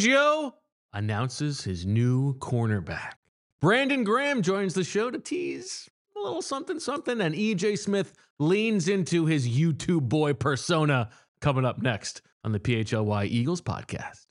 Fangio announces his new cornerback. Brandon Graham joins the show to tease a little something, and EJ Smith leans into his YouTube boy persona. Coming up next on the PHLY Eagles podcast.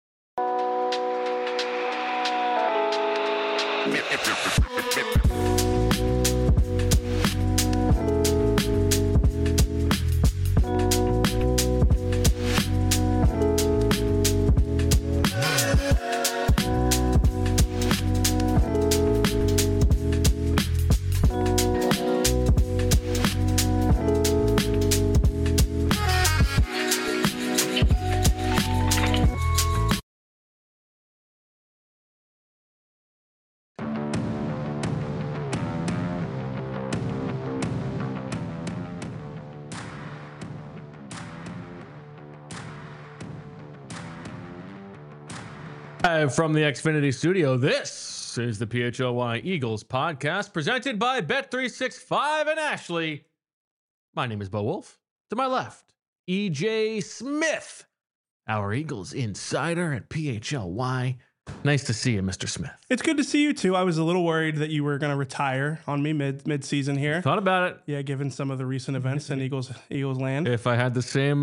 From the Xfinity studio, this is the PHLY Eagles podcast presented by Bet365 and Ashley. My name is Bo Wolf. To my left, EJ Smith, our Eagles insider at PHLY. Nice to see you, Mr. Smith. It's good to see you too. I was a little worried that you were going to retire on me mid-season here. Thought about it. Yeah, given some of the recent events in Eagles land. If I had the same,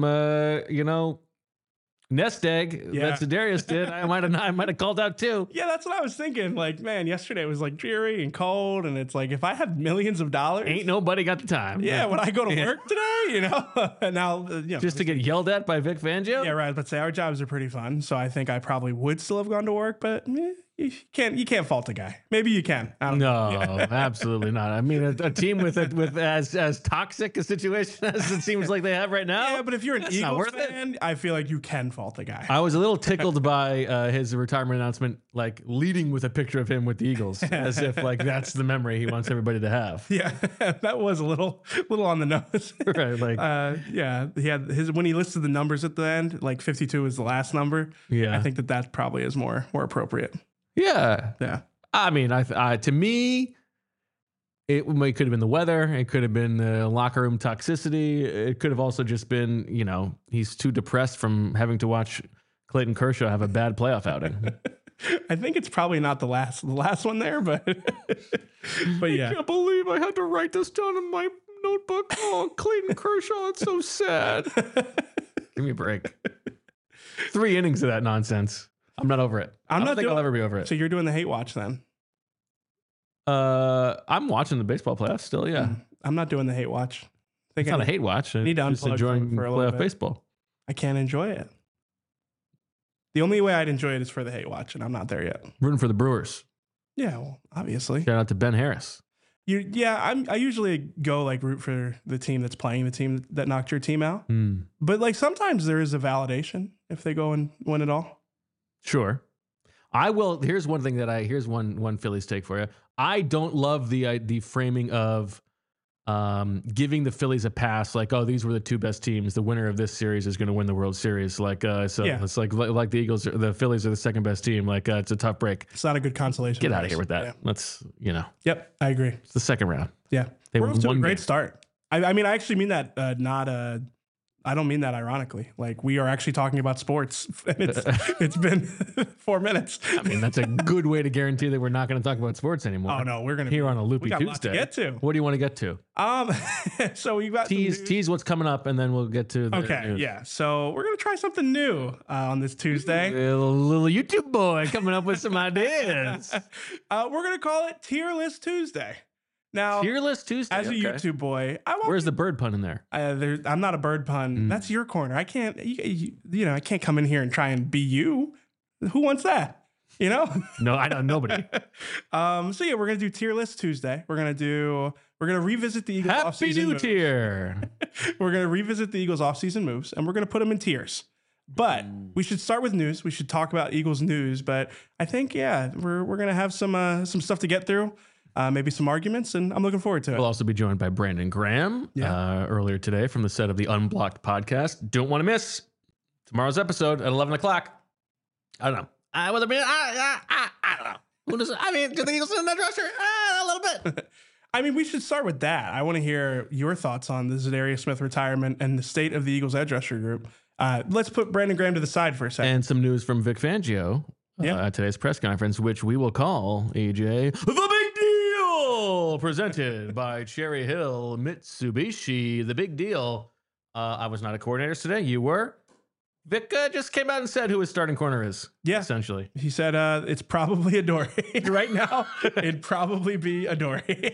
nest egg that Za'Darius did, I might have called out too. Yeah, that's what I was thinking. Like, man, yesterday was like dreary and cold, and it's like if I had millions of dollars, ain't nobody got the time. Yeah, would I go to work today? Now, just to get yelled at by Vic Fangio. Yeah, right. But say our jobs are pretty fun, so I think I probably would still have gone to work, but. You can't fault a guy. Maybe you can. No, absolutely not. I mean, a team with as toxic a situation as it seems like they have right now. Yeah, but if you're an Eagles fan, I feel like you can fault a guy. I was a little tickled by his retirement announcement, like leading with a picture of him with the Eagles, as if like that's the memory he wants everybody to have. Yeah, that was a little on the nose. Right, like yeah, he had his when he listed the numbers at the end, like 52 is the last number. Yeah, I think that probably is more appropriate. Yeah. I mean, to me, it could have been the weather. It could have been the locker room toxicity. It could have also just been, he's too depressed from having to watch Clayton Kershaw have a bad playoff outing. I think it's probably not the last one there, but yeah. I can't believe I had to write this down in my notebook. Oh, Clayton Kershaw, it's so sad. Give me a break. 3 innings of that nonsense. I'm not over it. I don't think I'll ever be over it. So you're doing the hate watch then? I'm watching the baseball playoffs still, yeah. I'm not doing the hate watch. It's not a hate watch. I need to just enjoying for a playoff baseball. I can't enjoy it. The only way I'd enjoy it is for the hate watch, and I'm not there yet. Rooting for the Brewers. Yeah, well, obviously. Shout out to Ben Harris. I usually go like root for the team that's playing the team that knocked your team out. But like sometimes there is a validation if they go and win it all. Sure. I will. Here's one thing here's one Phillies take for you. I don't love the framing of giving the Phillies a pass, like, oh, these were the 2 best teams. The winner of this series is going to win the World Series. Like, It's like the Eagles, the Phillies are the 2nd best team. Like, it's a tough break. It's not a good consolation. Get out of here with that. Yeah. Let's, Yep, I agree. It's the 2nd round. Yeah, we're off to a great start. I mean, I actually mean that I don't mean that ironically. Like, we are actually talking about sports. And it's been 4 minutes. I mean, that's a good way to guarantee that we're not going to talk about sports anymore. Oh no, we're going to here on a Loopy Tuesday. We got a lot to get to. What do you want to get to? So we've got tease what's coming up, and then we'll get to the news. Yeah. So we're going to try something new on this Tuesday. A little YouTube boy coming up with some ideas. We're going to call it Tier List Tuesday. Now, Tier List Tuesday. As a YouTube boy, where's the bird pun in there? I'm not a bird pun. That's your corner. I can't. I can't come in here and try and be you. Who wants that? No, I know nobody. So yeah, we're gonna do Tier List Tuesday. We're gonna revisit the Eagles Happy offseason new moves. Tier. We're gonna revisit the Eagles offseason moves, and we're gonna put them in tiers. But we should start with news. We should talk about Eagles news. But I think we're gonna have some stuff to get through. Maybe some arguments, and I'm looking forward to it. We'll also be joined by Brandon Graham earlier today from the set of the Unblocked podcast. Don't want to miss tomorrow's episode at 11 o'clock. I don't know. I don't know. Who does? I mean, do the Eagles in that roster? A little bit. I mean, we should start with that. I want to hear your thoughts on the Za'Darius Smith retirement and the state of the Eagles edge rusher group. Let's put Brandon Graham to the side for a second. And some news from Vic Fangio at today's press conference, which we will call, AJ, the big deal, presented by Cherry Hill Mitsubishi. The big deal. I was not a coordinator today. You were. Vic just came out and said who his starting corner is. Yeah. Essentially. He said it's probably Adoree. Right now, it'd probably be Adoree.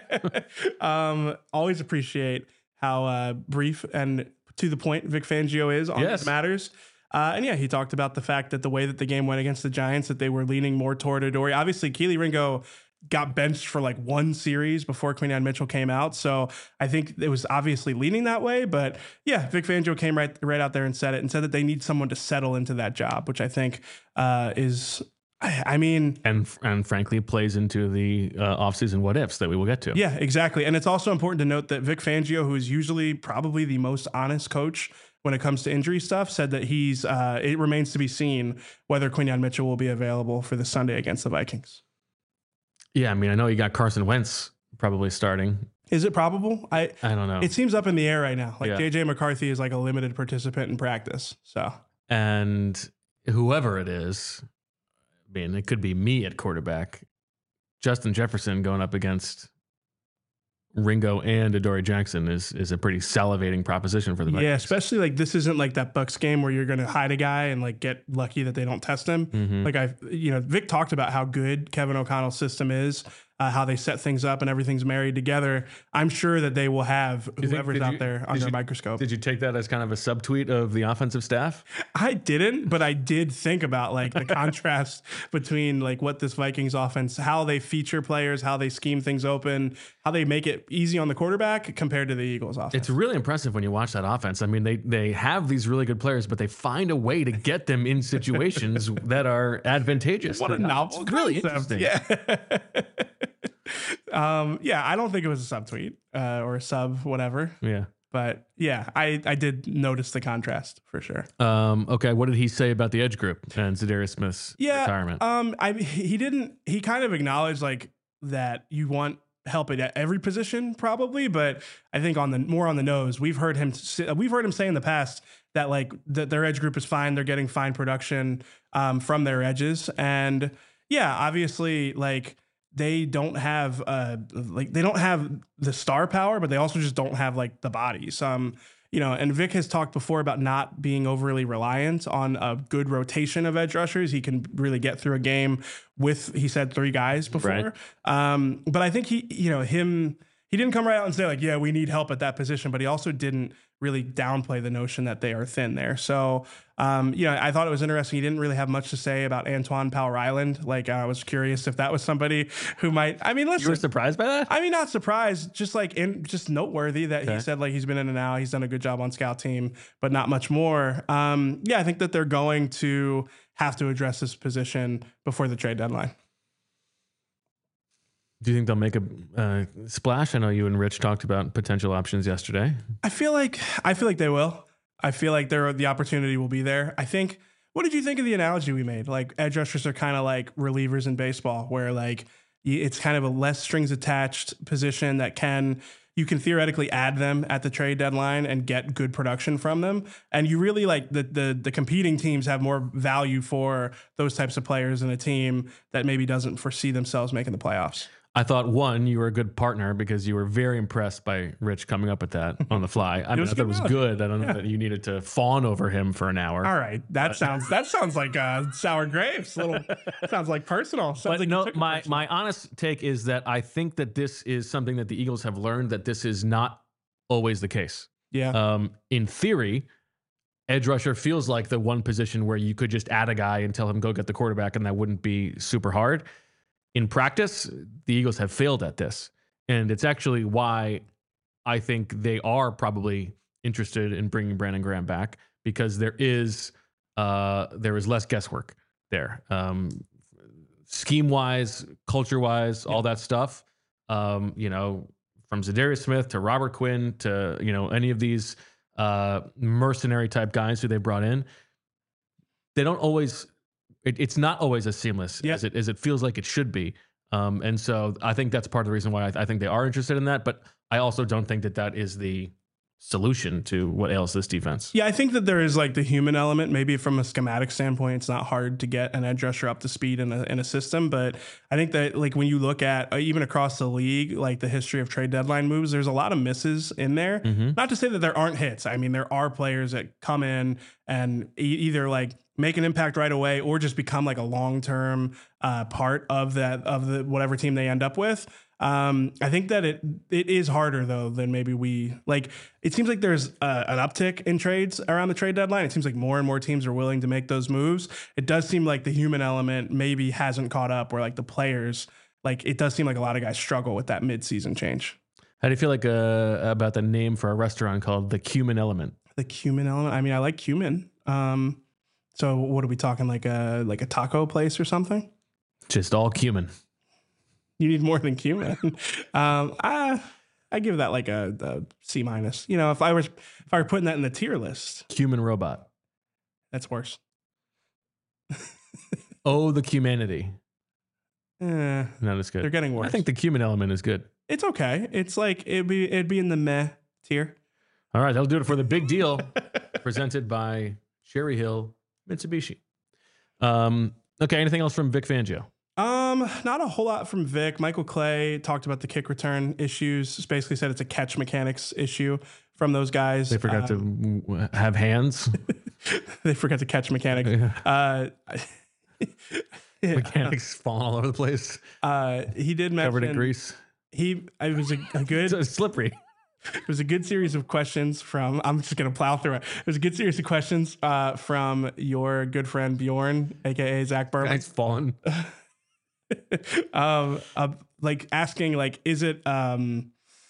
Always appreciate how brief and to the point Vic Fangio is on these matters. And yeah, he talked about the fact that the way that the game went against the Giants, that they were leaning more toward Adoree. Obviously, Kelee Ringo got benched for like one series before Quinyon Mitchell came out. So I think it was obviously leaning that way. But yeah, Vic Fangio came right out there and said it, and said that they need someone to settle into that job, which I think is, I mean... And frankly, plays into the offseason what ifs that we will get to. Yeah, exactly. And it's also important to note that Vic Fangio, who is usually probably the most honest coach when it comes to injury stuff, said that it remains to be seen whether Quinyon Mitchell will be available for the Sunday against the Vikings. Yeah, I mean, I know you got Carson Wentz probably starting. Is it probable? I don't know. It seems up in the air right now. Like JJ McCarthy is like a limited participant in practice. So, and whoever it is, I mean, it could be me at quarterback. Justin Jefferson going up against Ringo and Adoree Jackson is a pretty salivating proposition for the Vikings. Yeah, especially like this isn't like that Bucs game where you're going to hide a guy and like get lucky that they don't test him. Mm-hmm. Like Vic talked about how good Kevin O'Connell's system is, how they set things up and everything's married together. I'm sure that they will have whoever's out there under a microscope. Did you take that as kind of a subtweet of the offensive staff? I didn't, but I did think about like the contrast between like what this Vikings offense, how they feature players, how they scheme things open, how they make it easy on the quarterback compared to the Eagles offense. It's really impressive when you watch that offense. I mean, they have these really good players, but they find a way to get them in situations that are advantageous. What a novel concept. Really interesting. Yeah. I don't think it was a subtweet or a sub whatever. Yeah. But yeah, I did notice the contrast for sure. Okay, what did he say about the edge group and Za'Darius Smith's retirement? He kind of acknowledged like that you want help at every position probably, but I think more on the nose, we've heard him say in the past that like that their edge group is fine. They're getting fine production from their edges, and yeah, obviously like they don't have the star power, but they also just don't have like the bodies. And Vic has talked before about not being overly reliant on a good rotation of edge rushers. He can really get through a game with, he said, 3 guys before. Right. But I think he didn't come right out and say like, yeah, we need help at that position, but he also didn't really downplay the notion that they are thin there. So, I thought it was interesting. He didn't really have much to say about Antoine Powell-Ryland. Like, I was curious if that was somebody who might, I mean, listen. You were surprised by that? I mean, not surprised, just just noteworthy that he said like he's been in and out. He's done a good job on scout team, but not much more. I think that they're going to have to address this position before the trade deadline. Do you think they'll make a splash? I know you and Rich talked about potential options yesterday. I feel like they will. I feel like the opportunity will be there. I think. What did you think of the analogy we made? Like edge rushers are kind of like relievers in baseball, where like it's kind of a less strings attached position that you can theoretically add them at the trade deadline and get good production from them. And you really like the competing teams have more value for those types of players in a team that maybe doesn't foresee themselves making the playoffs. I thought, one, you were a good partner because you were very impressed by Rich coming up with that on the fly. I thought it was good. I don't know that you needed to fawn over him for an hour. All right. That sounds like sour grapes. Sounds like personal. Sounds like no, my honest take is that I think that this is something that the Eagles have learned, that this is not always the case. Yeah. In theory, edge rusher feels like the one position where you could just add a guy and tell him go get the quarterback, and that wouldn't be super hard. In practice, the Eagles have failed at this. And it's actually why I think they are probably interested in bringing Brandon Graham back, because there is less guesswork there. Scheme-wise, culture-wise, all that stuff. From Za'Darius Smith to Robert Quinn to, any of these mercenary type guys who they brought in, they don't always... It's not always as seamless as it feels like it should be. And so I think that's part of the reason why I think they are interested in that. But I also don't think that is the solution to what ails this defense. Yeah, I think that there is like the human element. Maybe from a schematic standpoint, it's not hard to get an edge rusher up to speed in a system. But I think that like when you look at even across the league, like the history of trade deadline moves, there's a lot of misses in there. Not to say that there aren't hits. I mean, there are players that come in and either like make an impact right away or just become like a long-term part of the whatever team they end up with. I think that it is harder though than maybe we like. It seems like there's an uptick in trades around the trade deadline. It seems like more and more teams are willing to make those moves. It does seem like the human element maybe hasn't caught up, or like the players, like it does seem like a lot of guys struggle with that mid-season change. How do you feel like about the name for a restaurant called the Cumin Element? The cumin element. I mean, I like cumin. So what are we talking, like a taco place or something? Just all cumin. You need more than cumin. I give that like a C minus. You know, if I were putting that in the tier list, Cumin robot. that's worse. Oh, the cumanity. Not as good. They're getting worse. I think the Cumin Element is good. It's okay. It's like it'd be in the meh tier. All right, that'll do it for the big deal presented by Cherry Hill Mitsubishi. Okay, anything else from Vic Fangio? Not a whole lot from Vic. Michael Clay talked about the kick return issues. Just basically said it's a catch mechanics issue from those guys. They forgot to have hands. They forgot to catch mechanics. Mechanics falling all over the place. He did mention covered in grease. It was a good. It's slippery. It was a good series of questions from. I'm just gonna plow through it. It was a good series of questions from your good friend Bjorn, aka Zach Berman. Guy's fallen. Like asking, like, is it a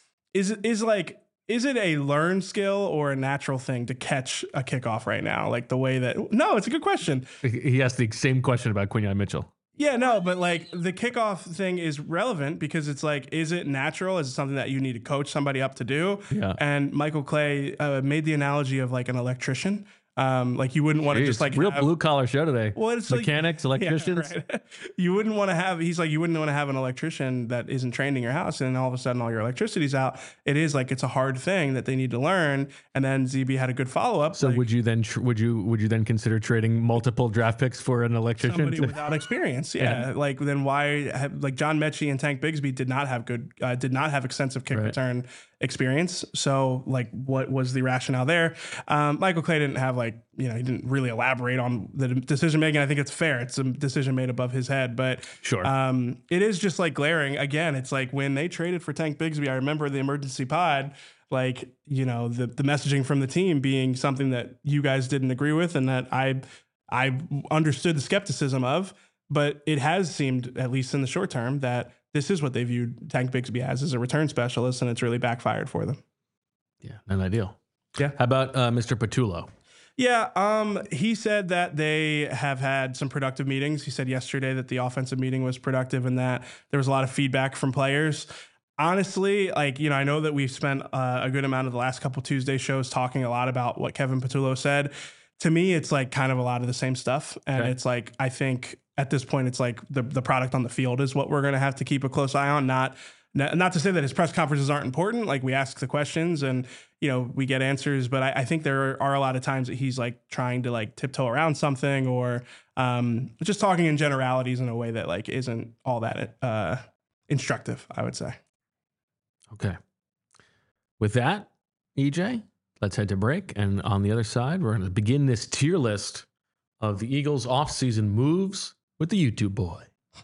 learned skill or a natural thing to catch a kickoff right now? Like the way that. No, it's a good question. He asked the same question about Quinyon Mitchell. Yeah, no, but like the kickoff thing is relevant because it's like, is it natural? Is it something that you need to coach somebody up to do? Yeah. And Michael Clay made the analogy of like an electrician. Like you wouldn't want to just like real blue collar show today. Well, it's mechanics, like, electricians. Yeah, right. You wouldn't want to have. He's like, you wouldn't want to have an electrician that isn't trained in your house, and all of a sudden all your electricity's out. It is like it's a hard thing that they need to learn. And then ZB had a good follow up. So like, would you then consider trading multiple draft picks for an electrician? Somebody without experience, yeah. Like then why? Like John Mechie and Tank Bigsby did not have extensive kick return experience. So like, what was the rationale there? Michael Clay didn't have like. He didn't really elaborate on the decision making. I think it's fair. It's a decision made above his head, but sure. It is just like glaring. Again, it's like when they traded for Tank Bigsby, I remember the emergency pod, like, the messaging from the team being something that you guys didn't agree with and that I understood the skepticism of, but it has seemed, at least in the short term, that this is what they viewed Tank Bigsby as a return specialist, and it's really backfired for them. Yeah, not ideal. Yeah. How about Mr. Patullo? Yeah, he said that they have had some productive meetings. He said yesterday that the offensive meeting was productive and that there was a lot of feedback from players. Honestly, like, I know that we've spent a good amount of the last couple Tuesday shows talking a lot about what Kevin Patullo said. To me, it's like kind of a lot of the same stuff. And okay. It's like, I think at this point, it's like the product on the field is what we're going to have to keep a close eye on. Not to say that his press conferences aren't important. Like we ask the questions and, we get answers, but I think there are a lot of times that he's like trying to like tiptoe around something or just talking in generalities in a way that like isn't all that instructive, I would say. Okay. With that, EJ, let's head to break. And on the other side, we're going to begin this tier list of the Eagles offseason moves with the YouTube boy.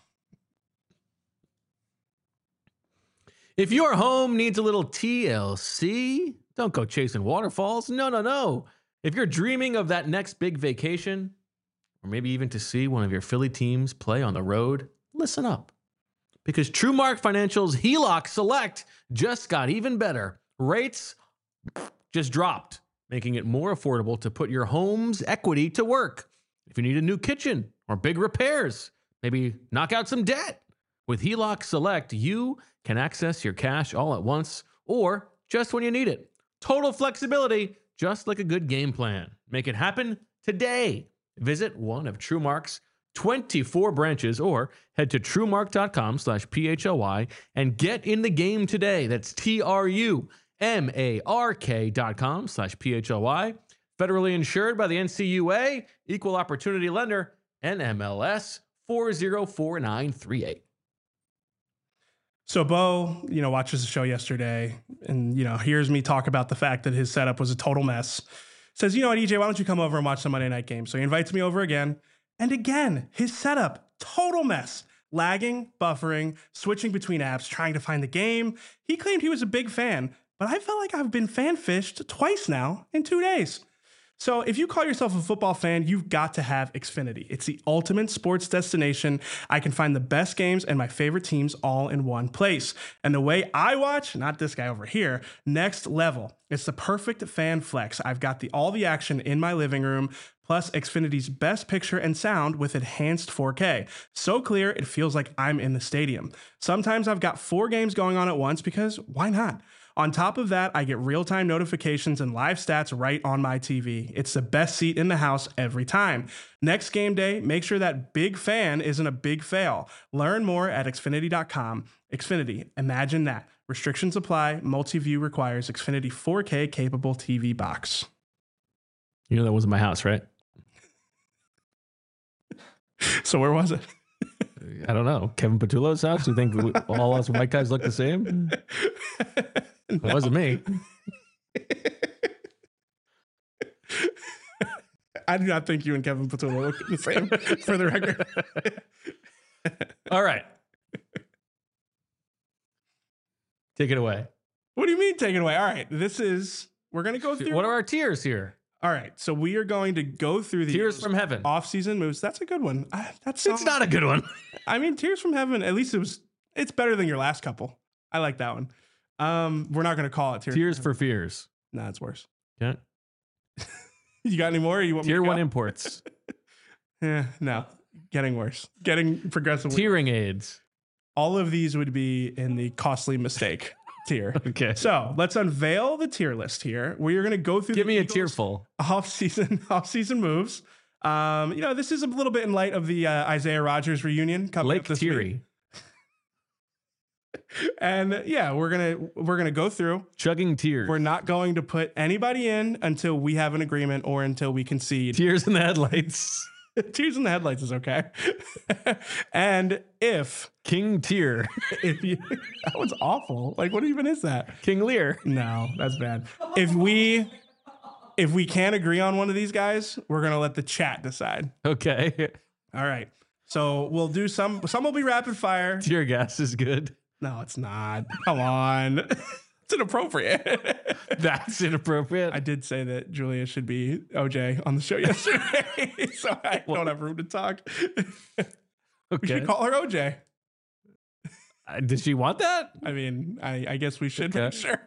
If your home needs a little TLC, don't go chasing waterfalls. No. If you're dreaming of that next big vacation, or maybe even to see one of your Philly teams play on the road, listen up. Because TrueMark Financial's HELOC Select just got even better. Rates just dropped, making it more affordable to put your home's equity to work. If you need a new kitchen or big repairs, maybe knock out some debt. With HELOC Select, you can access your cash all at once or just when you need it. Total flexibility, just like a good game plan. Make it happen today. Visit one of TrueMark's 24 branches or head to truemark.com/PHLY and get in the game today. That's TRUEMARK.com mark.com/PHLY. Federally insured by the NCUA, Equal Opportunity Lender, NMLS 404938. So Bo, watches the show yesterday and, hears me talk about the fact that his setup was a total mess. Says, you know what, EJ, why don't you come over and watch the Monday night game? So he invites me over again. And again, his setup, total mess. Lagging, buffering, switching between apps, trying to find the game. He claimed he was a big fan, but I felt like I've been fan fished twice now in 2 days. So if you call yourself a football fan, you've got to have Xfinity. It's the ultimate sports destination. I can find the best games and my favorite teams all in one place. And the way I watch, not this guy over here, next level. It's the perfect fan flex. I've got all the action in my living room, plus Xfinity's best picture and sound with enhanced 4K. So clear, it feels like I'm in the stadium. Sometimes I've got 4 games going on at once because why not? On top of that, I get real-time notifications and live stats right on my TV. It's the best seat in the house every time. Next game day, make sure that big fan isn't a big fail. Learn more at Xfinity.com. Xfinity, imagine that. Restrictions apply. Multi-view requires Xfinity 4K capable TV box. You know that wasn't my house, right? So where was it? I don't know. Kevin Patullo's house? You think all us white guys look the same? It wasn't me. I do not think you and Kevin Patullo look the same, for the record. All right. Take it away. What do you mean take it away? All right. We're going to go through. What are our tiers here? All right. So we are going to go through the Tiers from Heaven. Off-season moves. That's a good one. It's not a good one. I mean, Tears from Heaven, at least it's better than your last couple. I like that one. We're not going to call it Tears for Fears. No, it's worse. Yeah. You got any more? Or you want Tier me to 1 go? imports. No. Getting worse. Getting progressively. Tearing aids. All of these would be in the costly mistake tier. Okay. So let's unveil the tier list here. We are going to go through. Give me a Eagles tearful. off-season moves. This is a little bit in light of the Isaiah Rodgers reunion coming Lake up this Teary. week. And yeah, we're gonna go through. Chugging tears. We're not going to put anybody in until we have an agreement or until we concede. Tears in the headlights. Tears in the headlights is okay. And if King Tear. that was awful. Like, what even is that? King Lear. No, that's bad. If we can't agree on one of these guys, we're gonna let the chat decide. Okay. All right. So we'll do some will be rapid fire. Tear gas is good. No, it's not. Come on. It's inappropriate. That's inappropriate. I did say that Julia should be OJ on the show yesterday, so I don't have room to talk. We Okay. should call her OJ. Did she want that? I mean, I guess we should Okay. make sure.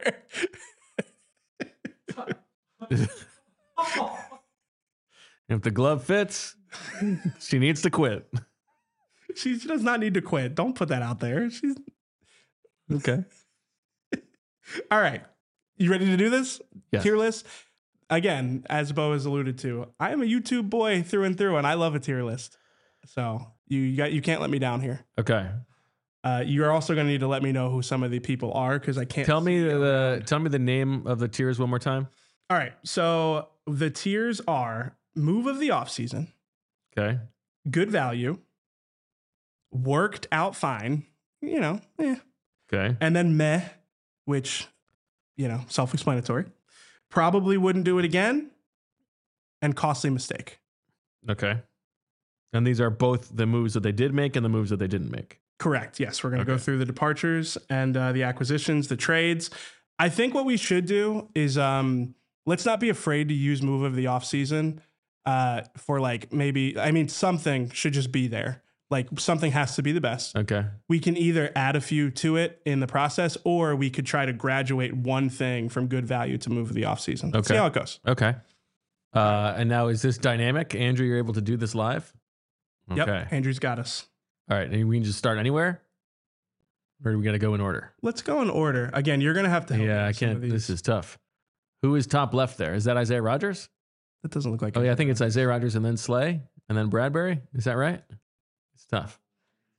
If the glove fits, she needs to quit. She does not need to quit. Don't put that out there. She's Okay. all right. You ready to do this? Yes. Tier list. Again, as Bo has alluded to, I am a YouTube boy through and through, and I love a tier list. So you can't let me down here. Okay. You're also going to need to let me know who some of the people are because I can't. Tell me the name of the tiers one more time. All right. So the tiers are move of the offseason, Okay. good value, worked out fine, Okay. and then meh, which, self-explanatory. Probably wouldn't do it again, and costly mistake. Okay. And these are both the moves that they did make and the moves that they didn't make. Correct. Yes, we're going to go through the departures and the acquisitions, the trades. I think what we should do is let's not be afraid to use move of the offseason for something should just be there. Like something has to be the best. Okay. We can either add a few to it in the process, or we could try to graduate one thing from good value to move of the offseason. Okay. See how it goes. Okay. And now is this dynamic? Andrew, you're able to do this live? Okay. Yep. Andrew's got us. All right. And we can just start anywhere? Or do we got to go in order? Let's go in order. Again, you're going to have to help me Yeah, I with some of can't. these. This is tough. Who is top left there? Is that Isaiah Rodgers? That doesn't look like Oh, it. yeah. I think it's Isaiah Rodgers and then Slay and then Bradbury. Is that right? It's tough.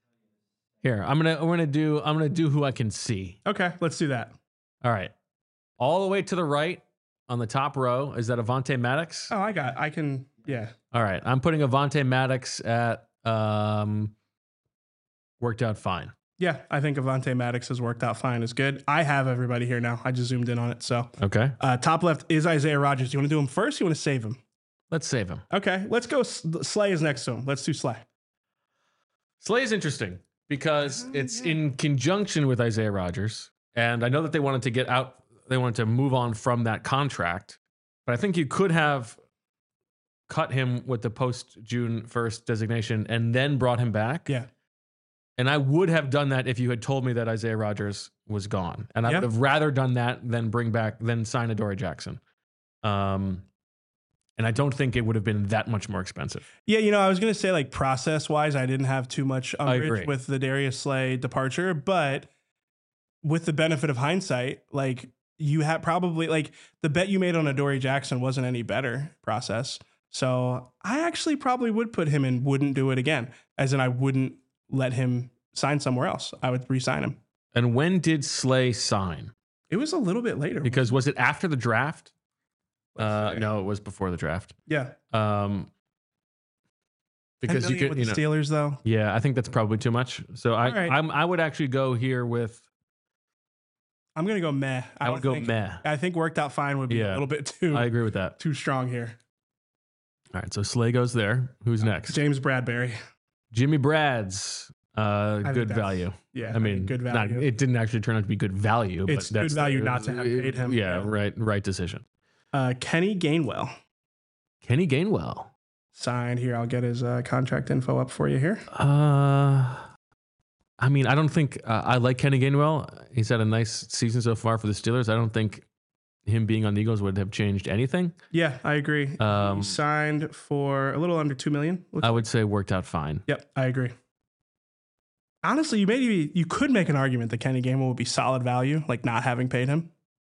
Here, I'm gonna do who I can see. Okay, let's do that. All right. all the way to the right on the top row. Is that Avonte Maddox? Oh, yeah. All right. I'm putting Avonte Maddox at worked out fine. Yeah, I think Avonte Maddox has worked out fine. Is good. I have everybody here now. I just zoomed in on it. So, Okay. top left is Isaiah Rodgers. Do you want to do him first? Or you want to save him? Let's save him. Okay, let's go. Slay is next to him. Let's do Slay. Slay is interesting because it's in conjunction with Isaiah Rodgers. And I know that they wanted to get out, they wanted to move on from that contract. But I think you could have cut him with the post June 1st designation and then brought him back. Yeah. And I would have done that if you had told me that Isaiah Rodgers was gone. And I would have rather done that than sign Adoree Jackson. And I don't think it would have been that much more expensive. Yeah, I was going to say, like, process-wise, I didn't have too much umbrage with the Darius Slay departure. But with the benefit of hindsight, like, you had probably, like, the bet you made on Adoree Jackson wasn't any better process. So I actually probably would put him in, wouldn't do it again. As in, I wouldn't let him sign somewhere else. I would re-sign him. And when did Slay sign? It was a little bit later. Because was it after the draft? No, it was before the draft. Yeah. Because you could, with the Steelers, though. Yeah, I think that's probably too much. So I would actually go here with. I'm gonna go meh. I would go meh. I think worked out fine would be a little bit too. I agree with that. Too strong here. All right, so Slay goes there. Who's next? James Bradbury. Jimmy Brad's good value. Yeah, I mean, good value. It didn't actually turn out to be good value. It's but good value not to have paid him. Yeah, right decision. Kenny Gainwell. Kenny Gainwell. Signed here. I'll get his contract info up for you here. I mean, I don't think I like Kenny Gainwell. He's had a nice season so far for the Steelers. I don't think him being on the Eagles would have changed anything. Yeah, I agree. He signed for a little under $2 million. I would say worked out fine. Yep, I agree. Honestly, you could make an argument that Kenny Gainwell would be solid value, like not having paid him.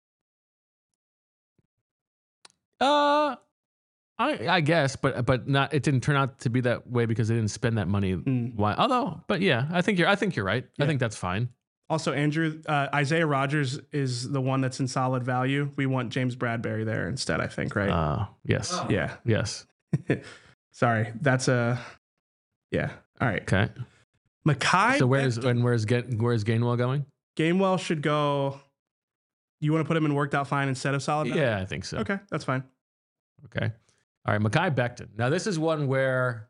I guess, but not. It didn't turn out to be that way because they didn't spend that money. Why? But yeah, I think you're right. Yeah. I think that's fine. Also, Andrew, Isaiah Rodgers is the one that's in solid value. We want James Bradbury there instead, I think, right? Yes. Yeah. Yes. Sorry, that's yeah. All right. Okay. Mekhi. So where's Gainwell going? Gainwell should go. You want to put him in worked out fine instead of solid value? Yeah, I think so. Okay, that's fine. Okay. All right, Mekhi Becton. Now this is one where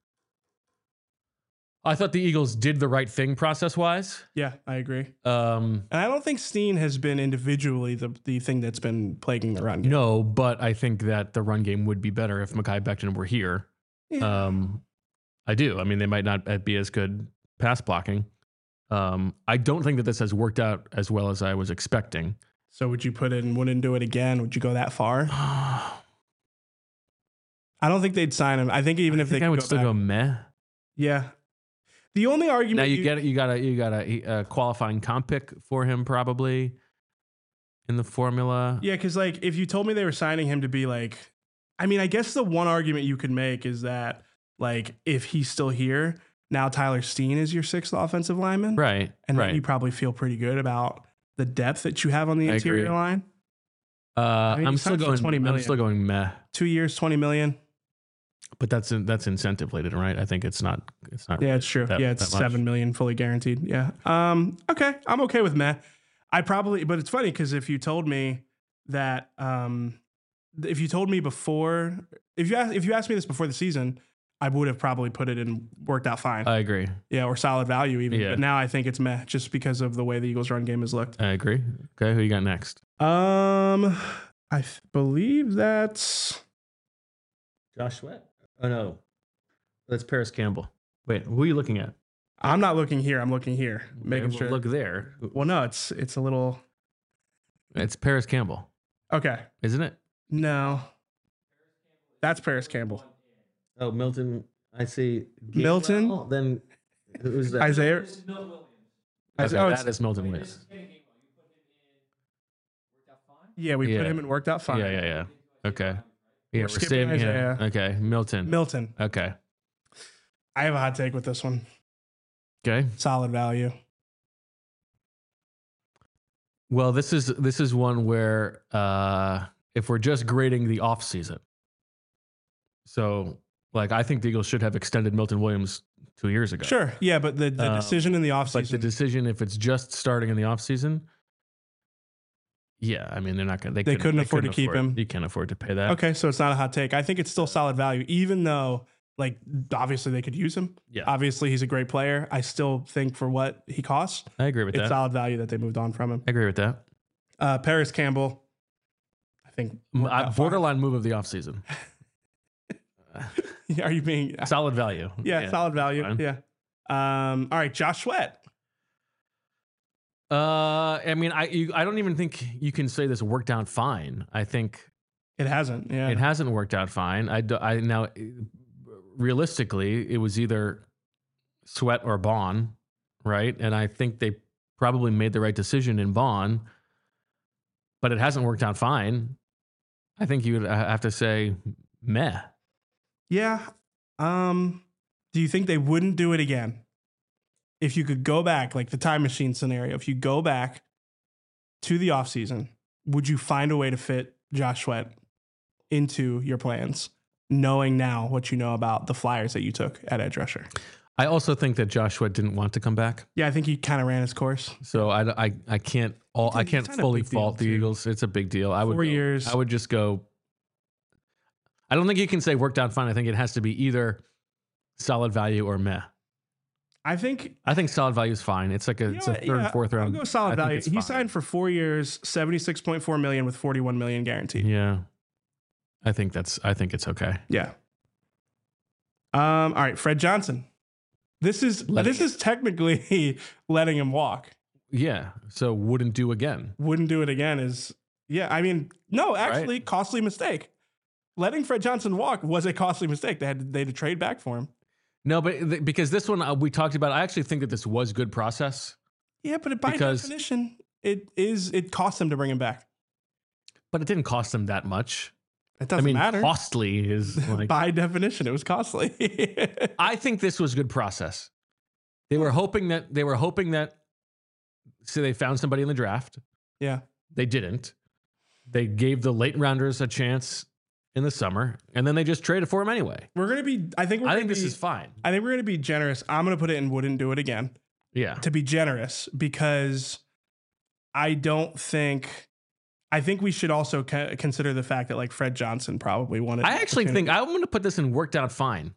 I thought the Eagles did the right thing process-wise. Yeah, I agree. And I don't think Steen has been individually the thing that's been plaguing the run game. No, but I think that the run game would be better if Mekhi Becton were here. Yeah. I do. I mean, they might not be as good pass blocking. I don't think that this has worked out as well as I was expecting. So would you put in, wouldn't do it again? Would you go that far? I don't think they'd sign him. I think even if they could I would still go meh. Yeah. The only argument now you got a qualifying comp pick for him probably in the formula. Yeah, because like if you told me they were signing him to be like, I mean, I guess the one argument you could make is that like if he's still here, now Tyler Steen is your sixth offensive lineman. Right. And then you probably feel pretty good about the depth that you have on the interior line. I'm still going 20 million. I'm still going meh. 2 years, 20 million. But that's incentive laden, right? I think it's not. Yeah, it's true. It's 7 million fully guaranteed. Yeah. Okay. I'm okay with meh. But it's funny because if you told me that, if you asked me this before the season, I would have probably put it in worked out fine. I agree. Yeah, or solid value even. Yeah. But now I think it's meh just because of the way the Eagles run game has looked. I agree. Okay, who you got next? I believe that's Josh Sweat. Oh no, that's Paris Campbell. Wait, who are you looking at? I'm not looking here. I'm looking here, making sure. Look there. Well, no, it's a little. It's Paris Campbell. Okay, isn't it? No, that's Paris Campbell. Oh, Milton. I see. Milton. Then who's that? Isaiah. That is Milton Williams. Yeah, we put him in worked out fine. Yeah. Okay. Yeah, we're saving Isaiah. Okay, Milton. Okay. I have a hot take with this one. Okay. Solid value. Well, this is one where if we're just grading the offseason, so like I think the Eagles should have extended Milton Williams 2 years ago. Sure. Yeah, but the decision in the But the offseason, decision, if it's just starting in the offseason, yeah, I mean they're not gonna. they couldn't afford to keep him. You can't afford to pay that. Okay, so it's not a hot take. I think it's still solid value, even though, like, obviously they could use him. Yeah, Obviously he's a great player. I still think for what he costs, I agree with it's that. solid value that they moved on from him. I agree with that. Paris Campbell, I think Borderline move of the offseason. Are you being Solid value. Yeah, solid value. fine. Yeah. All right, Josh Sweat. I mean, I don't even think you can say this worked out fine. I think It hasn't. Yeah. it hasn't worked out fine. Now, realistically, it was either Sweat or Bond, right? And I think they probably made the right decision in Bond, but it hasn't worked out fine. I think you would have to say meh. Yeah. Do you think they wouldn't do it again? If you could go back, like the time machine scenario, if you go back to the offseason, would you find a way to fit Josh Sweat into your plans, knowing now what you know about the Flyers that you took at edge rusher? I also think that Josh Sweat didn't want to come back. Yeah, I think he kind of ran his course. So I can't It's a fully big deal, fault the too. Eagles. It's a big deal. 4 years. I would just go. I don't think you can say worked out fine. I think it has to be either solid value or meh. I think solid value is fine. It's like it's a third and fourth round. I'll go solid I think value. it's He fine. signed for 4 years, $76.4 million with $41 million guaranteed. Yeah, I think it's okay. Yeah. All right, Fred Johnson. This is technically letting him walk. Yeah, so wouldn't do again. Wouldn't do it again is I mean, no, actually, costly mistake. Letting Fred Johnson walk was a costly mistake. They had to trade back for him. No, but because this one we talked about, I actually think that this was good process. Yeah, but by definition, it cost them to bring him back. But it didn't cost them that much. It doesn't matter. Costly is like by definition, it was costly. I think this was good process. They were hoping that so they found somebody in the draft. Yeah. They didn't. They gave the late rounders a chance in the summer, and then they just traded for him anyway. I think this is fine. I think we're gonna be generous. I'm gonna put it in wouldn't do it again. Yeah. To be generous, because I think we should also consider the fact that like Fred Johnson probably wanted. I actually think I'm going to put this in worked out fine.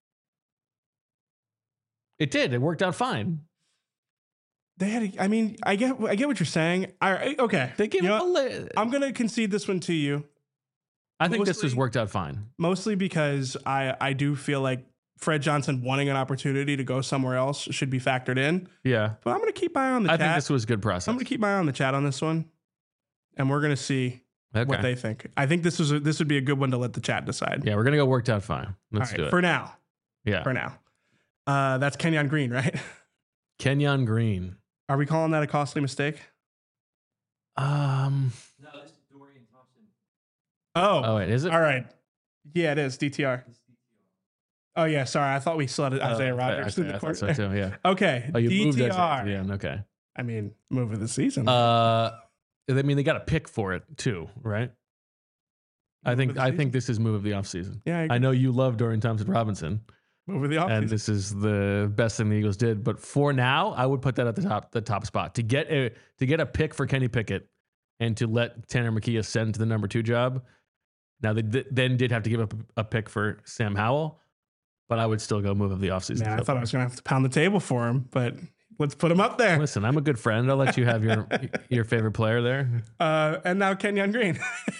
It did. It worked out fine. They had. I mean, I get what you're saying. Okay. They gave I'm going to concede this one to you. I think this was worked out fine. Mostly because I do feel like Fred Johnson wanting an opportunity to go somewhere else should be factored in. Yeah. But I'm going to keep my eye on the chat. I think this was good process. I'm going to keep my eye on the chat on this one. And we're going to see what they think. I think this would be a good one to let the chat decide. Yeah, we're going to go worked out fine. Let's do it. For now. Yeah. For now. That's Kenyon Green, right? Kenyon Green. Are we calling that a costly mistake? No, it's Dorian Thompson. Oh, wait, is it? All right. Yeah, it is DTR. Oh yeah, sorry. I thought we still had Isaiah Rodgers in the corner. So too, yeah. Okay. Oh, you moved that DTR. to okay. I mean, move of the season. I mean, they got a pick for it too, right? I think this is move of the offseason. Yeah, I know you love Dorian Thompson-Robinson. Move of the offseason. And this is the best thing the Eagles did. But for now, I would put that at the top spot. To get a pick for Kenny Pickett and to let Tanner McKee ascend to the number 2 job. Now they then did have to give up a pick for Sam Howell, but I would still go move of the offseason. Man, I thought I was gonna have to pound the table for him, but let's put him up there. Listen, I'm a good friend. I'll let you have your favorite player there. And now Kenyon Green.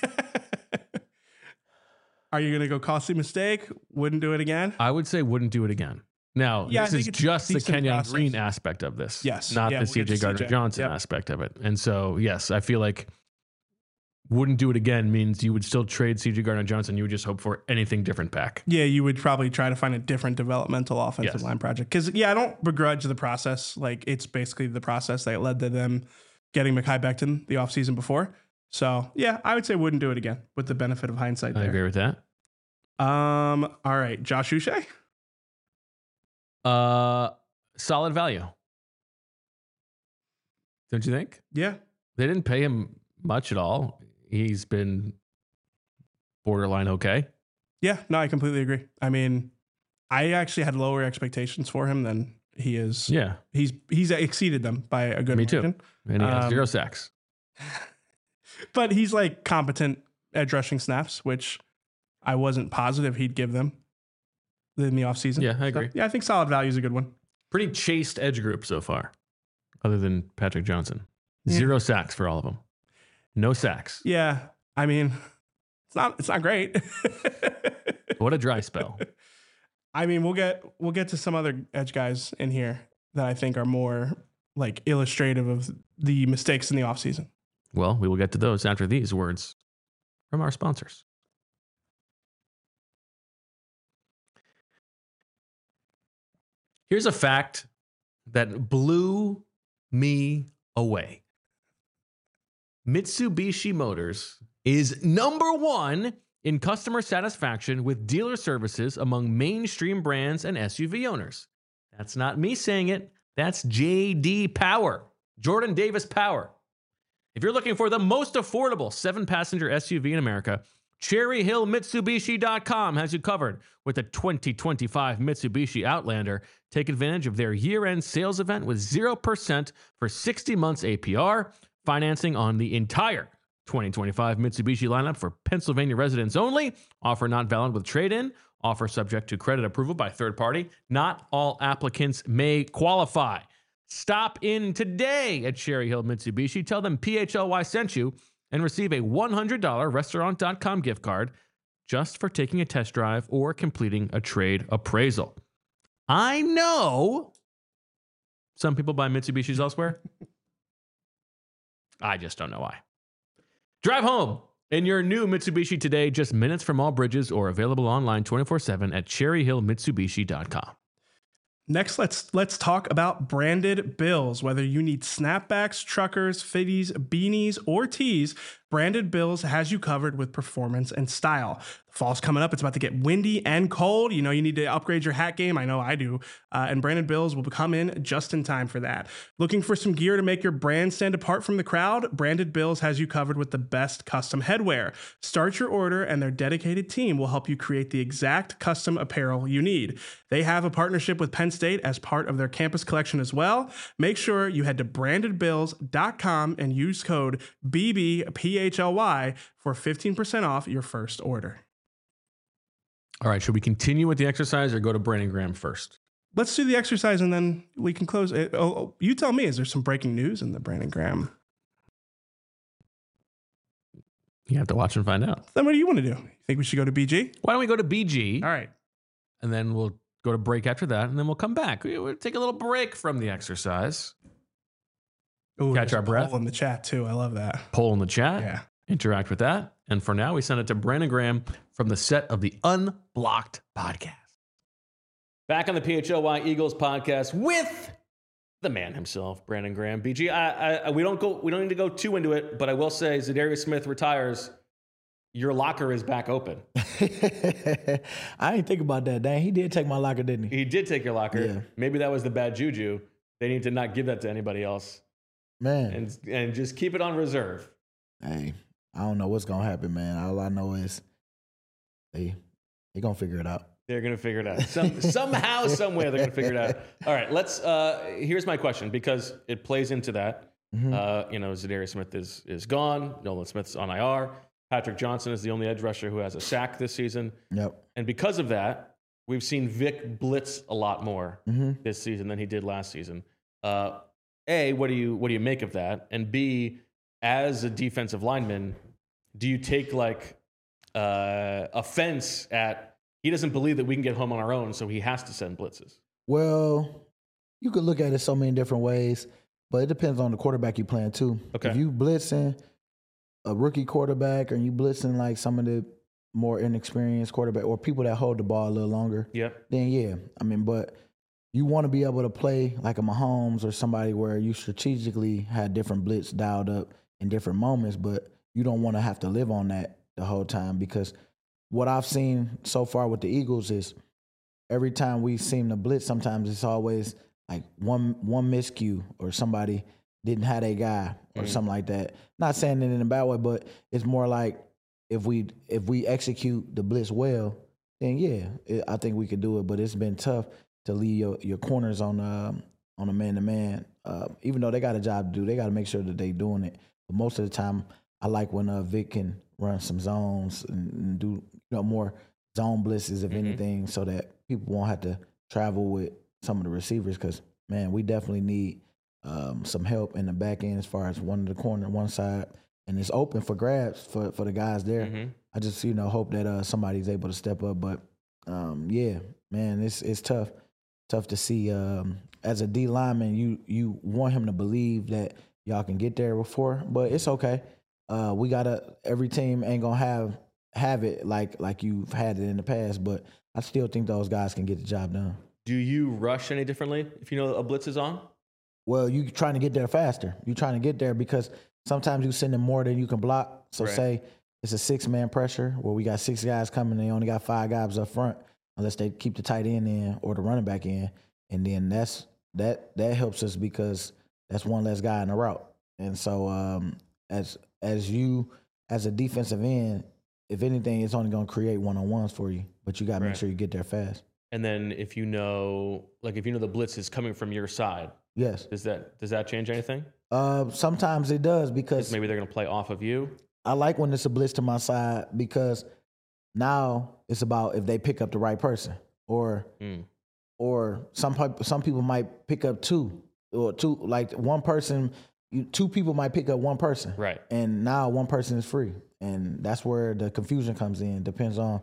Are you gonna go costly mistake? Wouldn't do it again? I would say wouldn't do it again. Now, Yeah, I this think is it's a just the decent Kenyon process. Green aspect of this. Yes. Not Yeah, the we'll get to CJ Gardner-Johnson Yep. aspect of it. And so, yes, I feel like wouldn't do it again means you would still trade CJ Gardner-Johnson. You would just hope for anything different back. Yeah, you would probably try to find a different developmental offensive line project. Because, I don't begrudge the process. Like, it's basically the process that led to them getting Mekhi Becton the offseason before. So, yeah, I would say wouldn't do it again with the benefit of hindsight I there. agree with that. All right, Josh Uche? Solid value. Don't you think? Yeah. They didn't pay him much at all. He's been borderline okay. Yeah, no, I completely agree. I mean, I actually had lower expectations for him than he is. Yeah, He's exceeded them by a good me too. margin. And he has 0 sacks. But he's like competent edge rushing snaps, which I wasn't positive he'd give them in the offseason. Yeah, I agree. Yeah, I think solid value is a good one. Pretty chaste edge group so far, other than Patrick Johnson. Yeah. 0 sacks for all of them. No sacks. Yeah, I mean, it's not great. What a dry spell. I mean, we'll get to some other edge guys in here that I think are more like illustrative of the mistakes in the offseason. Well, we will get to those after these words from our sponsors. Here's a fact that blew me away. Mitsubishi Motors is number 1 in customer satisfaction with dealer services among mainstream brands and SUV owners. That's not me saying it. That's JD Power, Jordan Davis Power. If you're looking for the most affordable 7-passenger SUV in America, CherryHillMitsubishi.com has you covered with the 2025 Mitsubishi Outlander. Take advantage of their year-end sales event with 0% for 60 months APR, financing on the entire 2025 Mitsubishi lineup for Pennsylvania residents only. Offer not valid with trade-in. Offer subject to credit approval by third party. Not all applicants may qualify. Stop in today at Cherry Hill Mitsubishi. Tell them PHLY sent you and receive a $100 restaurant.com gift card just for taking a test drive or completing a trade appraisal. I know some people buy Mitsubishis elsewhere. I just don't know why. Drive home in your new Mitsubishi today, just minutes from all bridges or available online 24/7 at cherryhillmitsubishi.com. Next, let's talk about branded bills. Whether you need snapbacks, truckers, fitties, beanies, or tees, Branded Bills has you covered with performance and style. Fall's coming up. It's about to get windy and cold. You know, you need to upgrade your hat game. I know I do. And Branded Bills will come in just in time for that. Looking for some gear to make your brand stand apart from the crowd? Branded Bills has you covered with the best custom headwear. Start your order and their dedicated team will help you create the exact custom apparel you need. They have a partnership with Penn State as part of their campus collection as well. Make sure you head to brandedbills.com and use code BBPHLY for 15% off your first order. All right, should we continue with the exercise or go to Brandon Graham first? Let's do the exercise and then we can close it. You tell me, is there some breaking news in the Brandon Graham? You have to watch and find out. Then what do you want to do? You think we should go to BG? Why don't we go to BG? All right. And then we'll go to break after that, and then we'll come back. We'll take a little break from the exercise. Ooh, Catch our breath. Poll in the chat too. I love that. Poll in the chat. Yeah. Interact with that. And for now, we send it to Brandon Graham from the set of the Unblocked podcast. Back on the PHLY Eagles podcast with the man himself, Brandon Graham. BG, we don't need to go too into it, but I will say, Zadarius Smith retires. Your locker is back open. I didn't think about that. Dang, he did take my locker, didn't he? He did take your locker. Yeah. Maybe that was the bad juju. They need to not give that to anybody else. Man. And just keep it on reserve. Hey, I don't know what's going to happen, man. All I know is they going to figure it out. They're going to figure it out. Somehow, some way, they're going to figure it out. All right, here's my question, because it plays into that. Mm-hmm. Zadarius Smith is gone. Nolan Smith's on IR. Patrick Johnson is the only edge rusher who has a sack this season. Yep. And because of that, we've seen Vic blitz a lot more this season than he did last season. A, what do you make of that? And B, as a defensive lineman, do you take offense at he doesn't believe that we can get home on our own, so he has to send blitzes? Well, you could look at it so many different ways, but it depends on the quarterback you're playing too. Okay. If you blitzing a rookie quarterback or you blitzing like some of the more inexperienced quarterback or people that hold the ball a little longer, then yeah. I mean, but you want to be able to play like a Mahomes or somebody where you strategically had different blitz dialed up in different moments, but you don't want to have to live on that the whole time, because what I've seen so far with the Eagles is every time we seem to blitz, sometimes it's always like one miscue or somebody didn't have a guy or something like that. Not saying it in a bad way, but it's more like if we execute the blitz well, then yeah, I think we could do it. But it's been tough to leave your corners on a man-to-man. Even though they got a job to do, they got to make sure that they doing it. But most of the time, I like when Vic can run some zones and do more zone blitzes, if anything, so that people won't have to travel with some of the receivers. Because man, we definitely need some help in the back end as far as one of the corner, one side, and it's open for grabs for the guys there. I just hope that somebody's able to step up. But yeah, man, it's tough to see. As a D lineman, you want him to believe that y'all can get there before, but it's okay. We every team ain't gonna have it like you've had it in the past, but I still think those guys can get the job done. Do you rush any differently if you know a blitz is on? Well, you trying to get there faster. You trying to get there because sometimes you send them more than you can block. So say it's a 6-man pressure where we got 6 guys coming, they only got 5 guys up front unless they keep the tight end in or the running back in, and then that helps us because that's one less guy in the route. And so as a defensive end, if anything, it's only going to create one-on-ones for you, but you got to make sure you get there fast. And then if you know the blitz is coming from your side, yes. Does that change anything? Sometimes it does because maybe they're going to play off of you. I like when it's a blitz to my side because now it's about if they pick up the right person or some people might pick up two, like one person. 2 people might pick up one person, right? And now one person is free, and that's where the confusion comes in. Depends on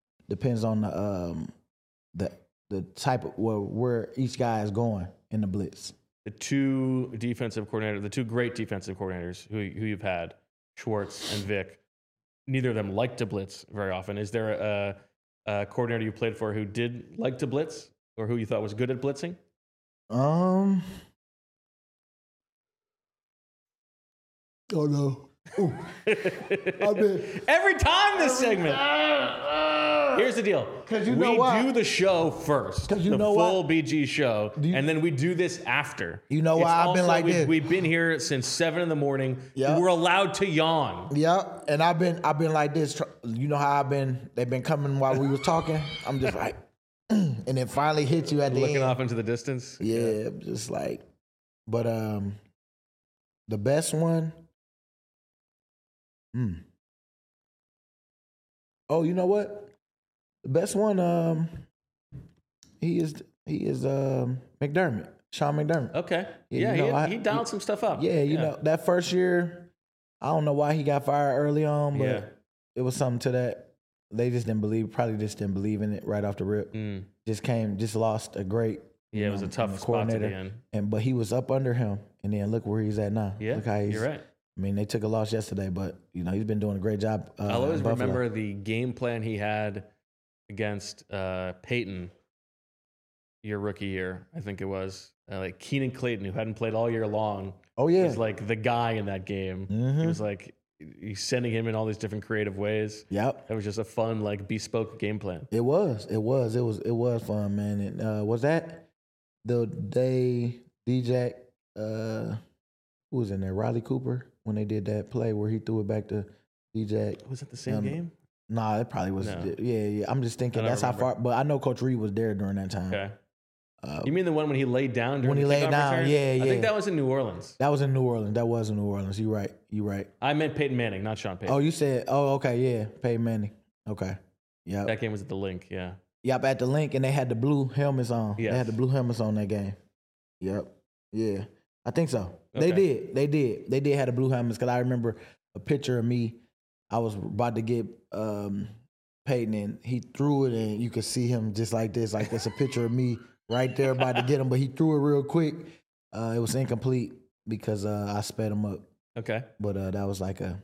the type of where each guy is going in the blitz. The 2 great defensive coordinators who you've had, Schwartz and Vic, neither of them like to blitz very often. Is there a coordinator you played for who did like to blitz, or who you thought was good at blitzing? Oh no! Every time this segment. Here's the deal. We do the show first, the full BG show, and then we do this after. You know why I've been like this? We've been here since 7 a.m. Yep. We're allowed to yawn. Yep, and I've been like this. You know how they've been coming while we was talking. I'm just like, and it finally hit you at the end. Looking off into the distance. Yeah, just like, but the best one. Oh, you know what? The best one, he is McDermott, Sean McDermott. Okay. Yeah, he dialed some stuff up. Yeah, you know, that first year, I don't know why he got fired early on, but it was something to that. They just didn't believe in it right off the rip. Just lost a great it was a tough spot to be in. But he was up under him, and then look where he's at now. Yeah, look how you're right. I mean, they took a loss yesterday, but he's been doing a great job. I'll always remember the game plan he had against Peyton your rookie year. I think it was like Keenan Clayton, who hadn't played all year long. Oh yeah, was like the guy in that game. He was like he's sending him in all these different creative ways. Yep, it was just a fun bespoke game plan. It was fun, man. And was that the day DJ? Who was in there? Riley Cooper. When they did that play where he threw it back to DJ. Was it the same game? Nah, it probably was. No. Yeah. I'm just thinking that's how far. But I know Coach Reed was there during that time. Okay. You mean the one when he laid down during when he laid down? Return? Yeah. I think that was in New Orleans. That was in New Orleans. You're right. I meant Peyton Manning, not Sean Payton. Oh, you said, okay, yeah, Peyton Manning. Okay. Yeah. That game was at the Link, yeah. Yep, at the Link, and they had the blue helmets on. Yes. They had the blue helmets on that game. Yep. Yeah. I think so. Okay. They did have the blue helmets because I remember a picture of me. I was about to get Peyton, and he threw it, and you could see him just like this. Like that's a picture of me right there about to get him, but he threw it real quick. It was incomplete because I sped him up. Okay. But that was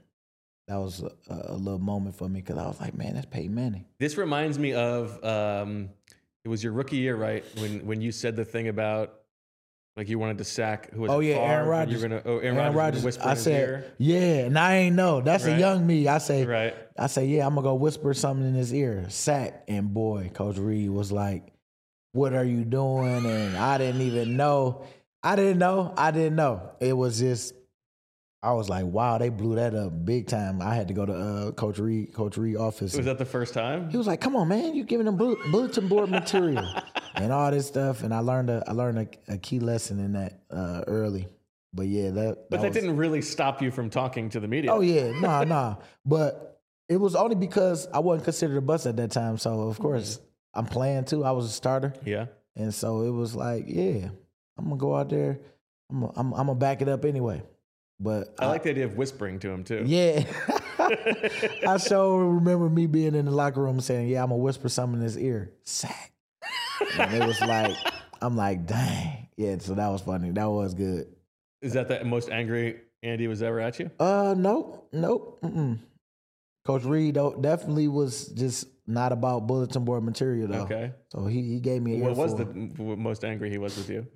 a little moment for me because I was like, man, that's Peyton Manning. This reminds me of it was your rookie year, right? When you said the thing about. Like you wanted to sack who was Aaron Rodgers. Aaron Rodgers. Whisper I said, yeah, and I ain't know. That's a young me. I say, yeah, I'm gonna go whisper something in his ear. Sack, and boy, Coach Reed was like, "What are you doing?" And I didn't even know. I didn't know. It was just, I was like, wow, they blew that up big time. I had to go to Coach Reed office. Was that the first time? He was like, come on, man, you giving them bulletin board material and all this stuff. And I learned a key lesson in that early. But yeah, that didn't really stop you from talking to the media. Oh yeah, nah. But it was only because I wasn't considered a bust at that time. So of course I'm playing too. I was a starter. Yeah. And so it was like, yeah, I'm gonna go out there. I'm gonna back it up anyway. But I like the idea of whispering to him too. Yeah. I sure remember me being in the locker room saying, yeah, I'm gonna whisper something in his ear. Sack. And it was like, I'm like, dang. Yeah, so that was funny. That was good. Is that the most angry Andy was ever at you? Nope. Mm-mm. Coach Reed definitely was just not about bulletin board material though. Okay. So he gave me What was the most angry he was with you?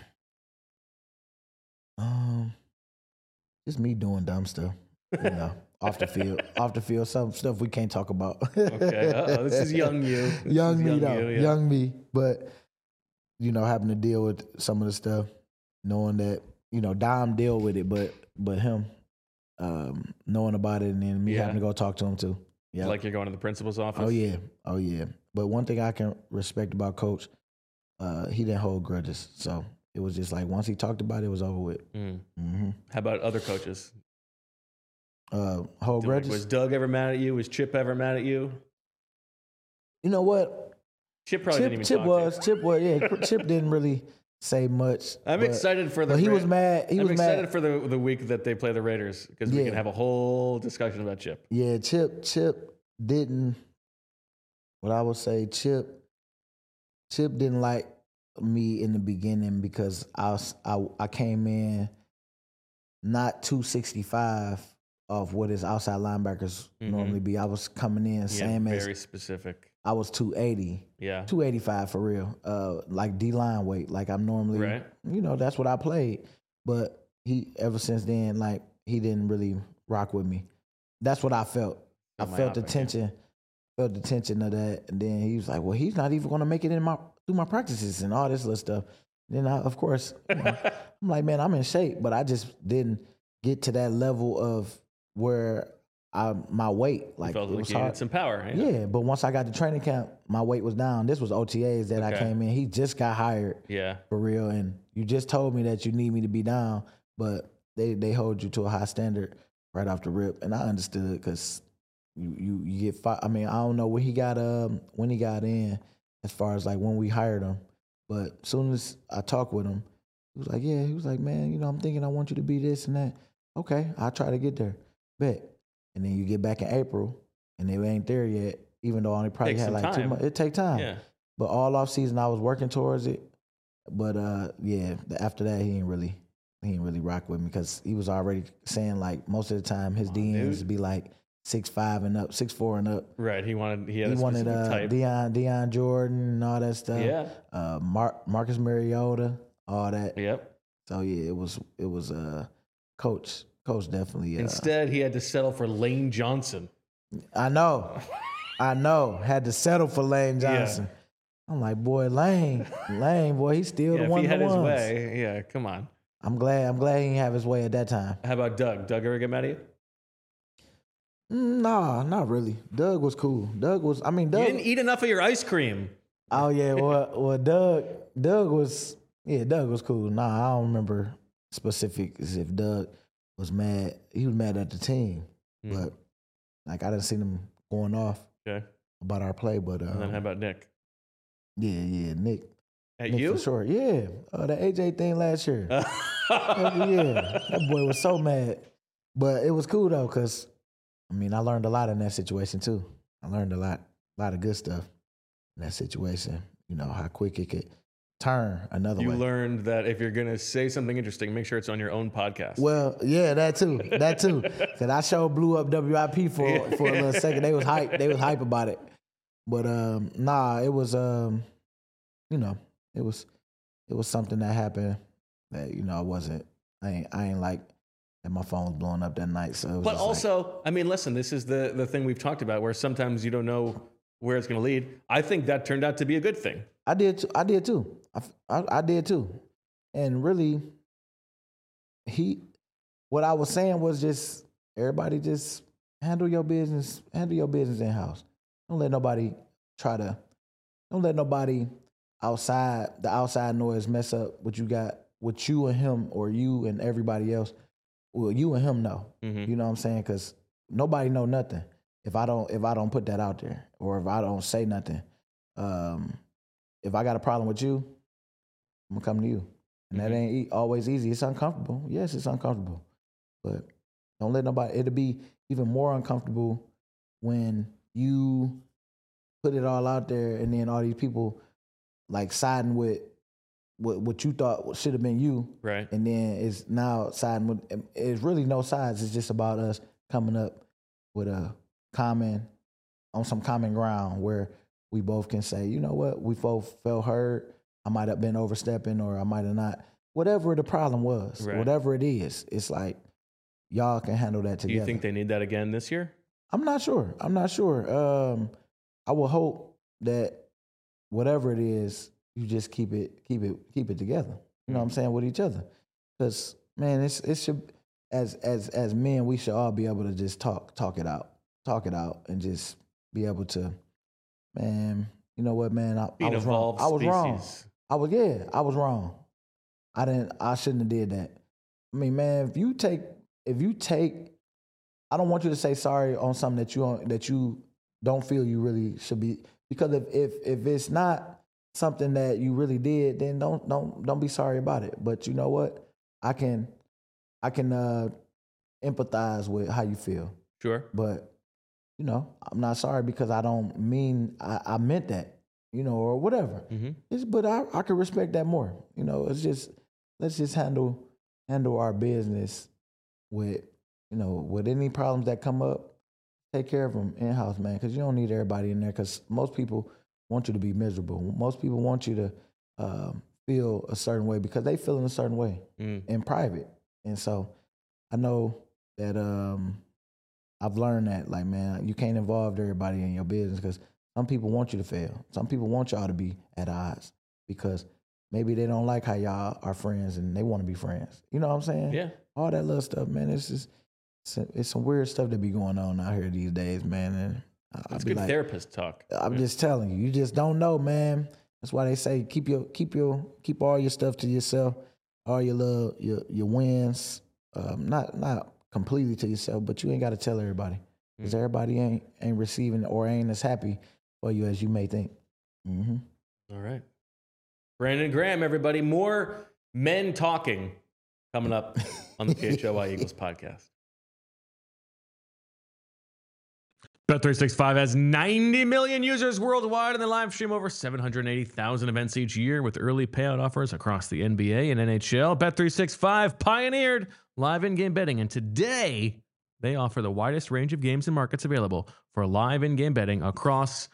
Just me doing dumb stuff, off the field, some stuff we can't talk about. Okay, this is young you. Young me. But having to deal with some of the stuff, knowing that Dom deal with it, but him knowing about it and then me having to go talk to him too. Yeah, like you're going to the principal's office. Oh yeah. But one thing I can respect about Coach, he didn't hold grudges, so. It was just like once he talked about it, it was over with. Mm-hmm. How about other coaches? Hold grudges? Was Doug ever mad at you? Was Chip ever mad at you? You know what? Chip probably didn't even Chip talk was. to you. Chip was. Yeah, Chip didn't really say much. I'm excited for the. But he was mad. I'm excited for the week that they play the Raiders because we can have a whole discussion about Chip. Yeah, Chip didn't. What I would say, Chip didn't like me in the beginning because I came in not 265 of what his outside linebackers normally be. I was coming in same as very specific. I was 280. Yeah. 285 for real. Like D-line weight. Like I'm normally right. That's what I played. But he ever since then, like he didn't really rock with me. That's what I felt. I felt the tension. Felt the tension of that. And then he was like, well, he's not even gonna make it through my practices and all this little stuff. Then of course, I'm like, man, I'm in shape, but I just didn't get to that level of where my weight, like, felt it was like you hard. needed some power. Yeah, but once I got to training camp, my weight was down. This was OTAs that I came in. He just got hired. Yeah, for real. And you just told me that you need me to be down, but they hold you to a high standard right off the rip, and I understood because you get. I mean, I don't know when he got in. As far as like when we hired him. But as soon as I talked with him, he was like, man, I'm thinking I want you to be this and that. Okay, I'll try to get there. Bet. And then you get back in April and they ain't there yet, even though I only probably had like 2 months. It take time. Yeah. But all off season I was working towards it. But after that he ain't really rock with me because he was already saying like most of the time his DMs would be like 6'5" and up, 6'4" and up. Right. He wanted type. Deion Jordan and all that stuff. Yeah. Marcus Mariota, all that. Yep. So yeah, it was Coach definitely. Instead, he had to settle for Lane Johnson. I know. Had to settle for Lane Johnson. Yeah. I'm like, boy, Lane, boy, he's still the one. If he had his way, yeah, come on. I'm glad he didn't have his way at that time. How about Doug? Doug ever get mad at you? Nah, not really. Doug was cool. Doug. You didn't eat enough of your ice cream. Oh yeah, well, Doug was cool. Nah, I don't remember specifics if Doug was mad. He was mad at the team, but like I didn't see him going off about our play. But and then how about Nick? Yeah, Nick. Nick you? For sure. Yeah, the AJ thing last year. Yeah, that boy was so mad, but it was cool though, cause. I learned a lot in that situation too. I learned a lot of good stuff in that situation. How quick it could turn another way. You learned that if you're gonna say something interesting, make sure it's on your own podcast. Well, yeah, that too. Because I sure blew up WIP for a little second. They was hype about it. But it was it was something that happened that I ain't like. And my phone was blowing up that night. So, but also, listen, this is the thing we've talked about where sometimes you don't know where it's going to lead. I think that turned out to be a good thing. I did too. I did too. And really, what I was saying was just everybody just handle your business in house. Don't let nobody outside noise mess up what you got, what you and him or you and everybody else. Well, you and him know. Mm-hmm. You know what I'm saying? Because nobody know nothing if I don't put that out there or if I don't say nothing. If I got a problem with you, I'm gonna come to you. And that ain't always easy. It's uncomfortable. Yes, it's uncomfortable. But don't let nobody, it'll be even more uncomfortable when you put it all out there and then all these people like siding with what you thought should have been you. Right. And then it's now siding with, it's really no sides. It's just about us coming up with on some common ground where we both can say, you know what, we both felt hurt. I might have been overstepping or I might have not. Whatever the problem was, whatever it is, it's like y'all can handle that together. Do you think they need that again this year? I'm not sure. I will hope that whatever it is, you just keep it together. You know what I'm saying, with each other. Because man, it should, as men, we should all be able to just talk it out, and just be able to, man. You know what, man? I was wrong. I was wrong. I was wrong. I shouldn't have did that. I mean, man, if you take, I don't want you to say sorry on something that you don't feel you really should be, because if it's not something that you really did, then don't be sorry about it. But you know what? I can empathize with how you feel. Sure. But you know, I'm not sorry because I don't mean I meant that, you know, or whatever. Mm-hmm. But I can respect that more. You know, it's just, let's just handle our business with, you know, with any problems that come up, take care of them in-house, man, because you don't need everybody in there, because most people want you to be miserable. Most people want you to feel a certain way because they feel in a certain way in private. And so I know that I've learned that, like, man, you can't involve everybody in your business because some people want you to fail. Some people want y'all to be at odds because maybe they don't like how y'all are friends and they want to be friends. You know what I'm saying? Yeah. All that little stuff, man. It's some weird stuff that be going on out here these days, man. And it's good, like, therapist talk. I'm just telling you, you just don't know, man. That's why they say keep all your stuff to yourself, all your wins, not completely to yourself, but you ain't got to tell everybody, because everybody ain't receiving or ain't as happy for you as you may think. Mm-hmm. All right, Brandon Graham, everybody, more men talking coming up on the PHLY Eagles podcast. Bet365 has 90 million users worldwide, and they live stream over 780,000 events each year with early payout offers across the NBA and NHL. Bet365 pioneered live in-game betting, and today they offer the widest range of games and markets available for live in-game betting across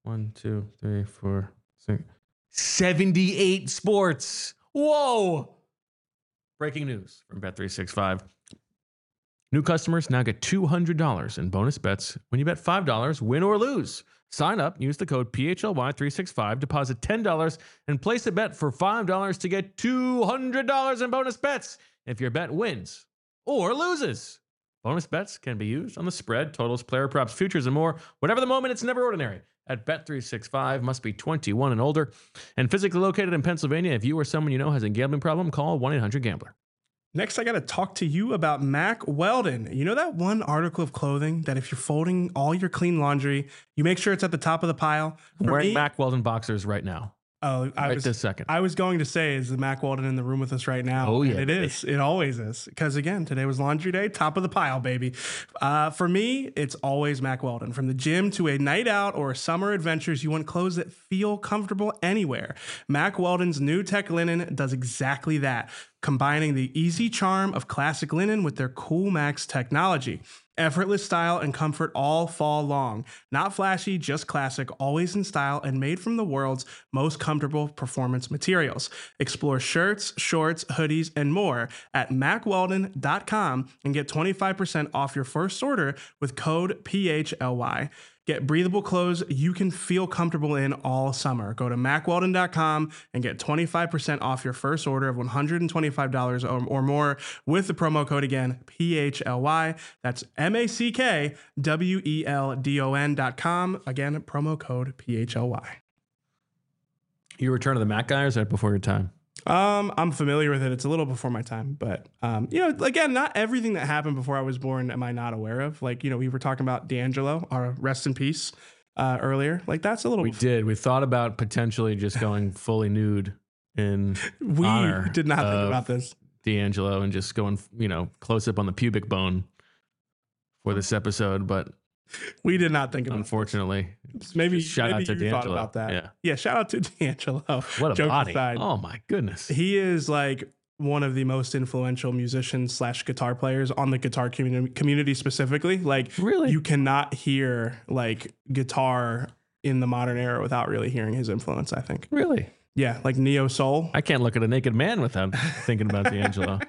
78 sports. Whoa! Breaking news from Bet365. New customers now get $200 in bonus bets when you bet $5, win or lose. Sign up, use the code PHLY365, deposit $10, and place a bet for $5 to get $200 in bonus bets if your bet wins or loses. Bonus bets can be used on the spread, totals, player props, futures, and more. Whatever the moment, it's never ordinary. At Bet365, must be 21 and older, and physically located in Pennsylvania. If you or someone you know has a gambling problem, call 1-800-GAMBLER. Next, I got to talk to you about Mack Weldon. You know that one article of clothing that if you're folding all your clean laundry, you make sure it's at the top of the pile? I'm wearing Mack Weldon boxers right now. Oh, this second. I was going to say, is the Mack Weldon in the room with us right now? Oh, yeah. And it is. It always is. Because, again, today was laundry day, top of the pile, baby. For me, it's always Mack Weldon. From the gym to a night out or summer adventures, you want clothes that feel comfortable anywhere. Mack Weldon's new tech linen does exactly that, combining the easy charm of classic linen with their Cool Max technology. Effortless style and comfort all fall long. Not flashy, just classic, always in style, and made from the world's most comfortable performance materials. Explore shirts, shorts, hoodies, and more at MackWeldon.com and get 25% off your first order with code PHLY. Get breathable clothes you can feel comfortable in all summer. Go to MacWeldon.com and get 25% off your first order of $125 or more with the promo code again, PHLY. That's MacWeldon.com. Again, promo code PHLY. You Return of the Mac guy, or is that before your time? I'm familiar with it. It's a little before my time, but again, not everything that happened before I was born am I not aware of. Like, we were talking about D'Angelo, our rest in peace, earlier. Like, that's a little. We did. We thought about potentially just going fully nude in honor. We did not think about this. D'Angelo and just going, close up on the pubic bone for this episode, but we did not think about unfortunately. Maybe shout out to you thought D'Angelo about that. Yeah, shout out to D'Angelo. What a Joke body! aside, oh my goodness, he is like one of the most influential musicians / guitar players on the guitar community specifically. Like, really, you cannot hear like guitar in the modern era without really hearing his influence, I think. Really? Yeah, like neo soul. I can't look at a naked man without thinking about D'Angelo.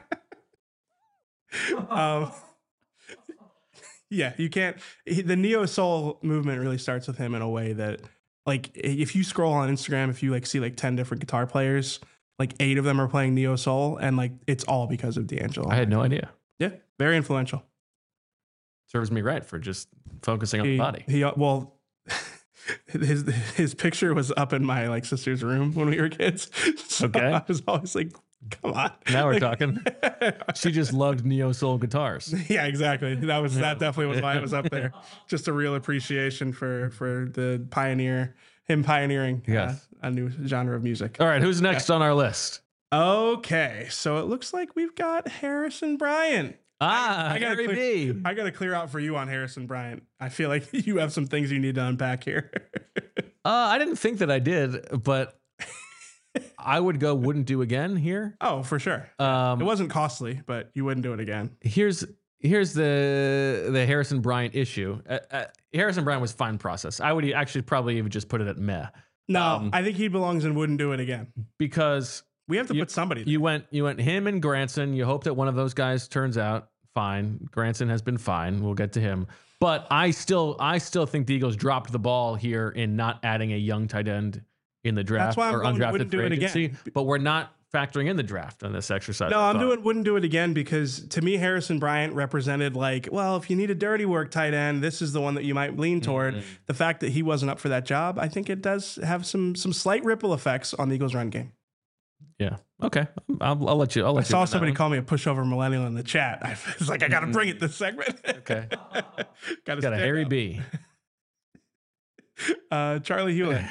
Yeah, you can't. The neo soul movement really starts with him in a way that, like, if you scroll on Instagram, if you like see like 10 different guitar players, like 8 of them are playing neo soul, and like it's all because of D'Angelo. I had no idea. Yeah, very influential. Serves me right for just focusing on the body. His picture was up in my like sister's room when we were kids. So Okay. I was always like, come on. Now we're talking. She just loved neo soul guitars. Yeah, exactly. That definitely was why it was up there. Just a real appreciation for the pioneering Yes. a new genre of music. All right, who's next on our list? Okay, so it looks like we've got Harrison Bryant. I got gotta B. I got to clear out for you on Harrison Bryant. I feel like you have some things you need to unpack here. I didn't think that I did, but I would go wouldn't do again here. Oh, for sure. It wasn't costly, but you wouldn't do it again. Here's the Harrison Bryant issue. Harrison Bryant was fine process. I would actually probably even just put it at meh. No, I think he belongs in wouldn't do it again. Because We have to put somebody there. you went him and Granson. You hope that one of those guys turns out fine. Granson has been fine. We'll get to him. But I still think the Eagles dropped the ball here in not adding a young tight end in the draft. That's why I'm or going undrafted wouldn't do free it again. agency. But we're not factoring in the draft on this exercise. No, I I'm thought. doing wouldn't do it again because to me, Harrison Bryant represented like, well, if you need a dirty work tight end, this is the one that you might lean toward. Mm-hmm. The fact that he wasn't up for that job, I think it does have some slight ripple effects on the Eagles run game. Yeah. Okay. I'll let you. I saw somebody call me a pushover millennial in the chat. I was like, I got to bring it this segment. Okay. Got Got a Harry B. Charlie Hewlett.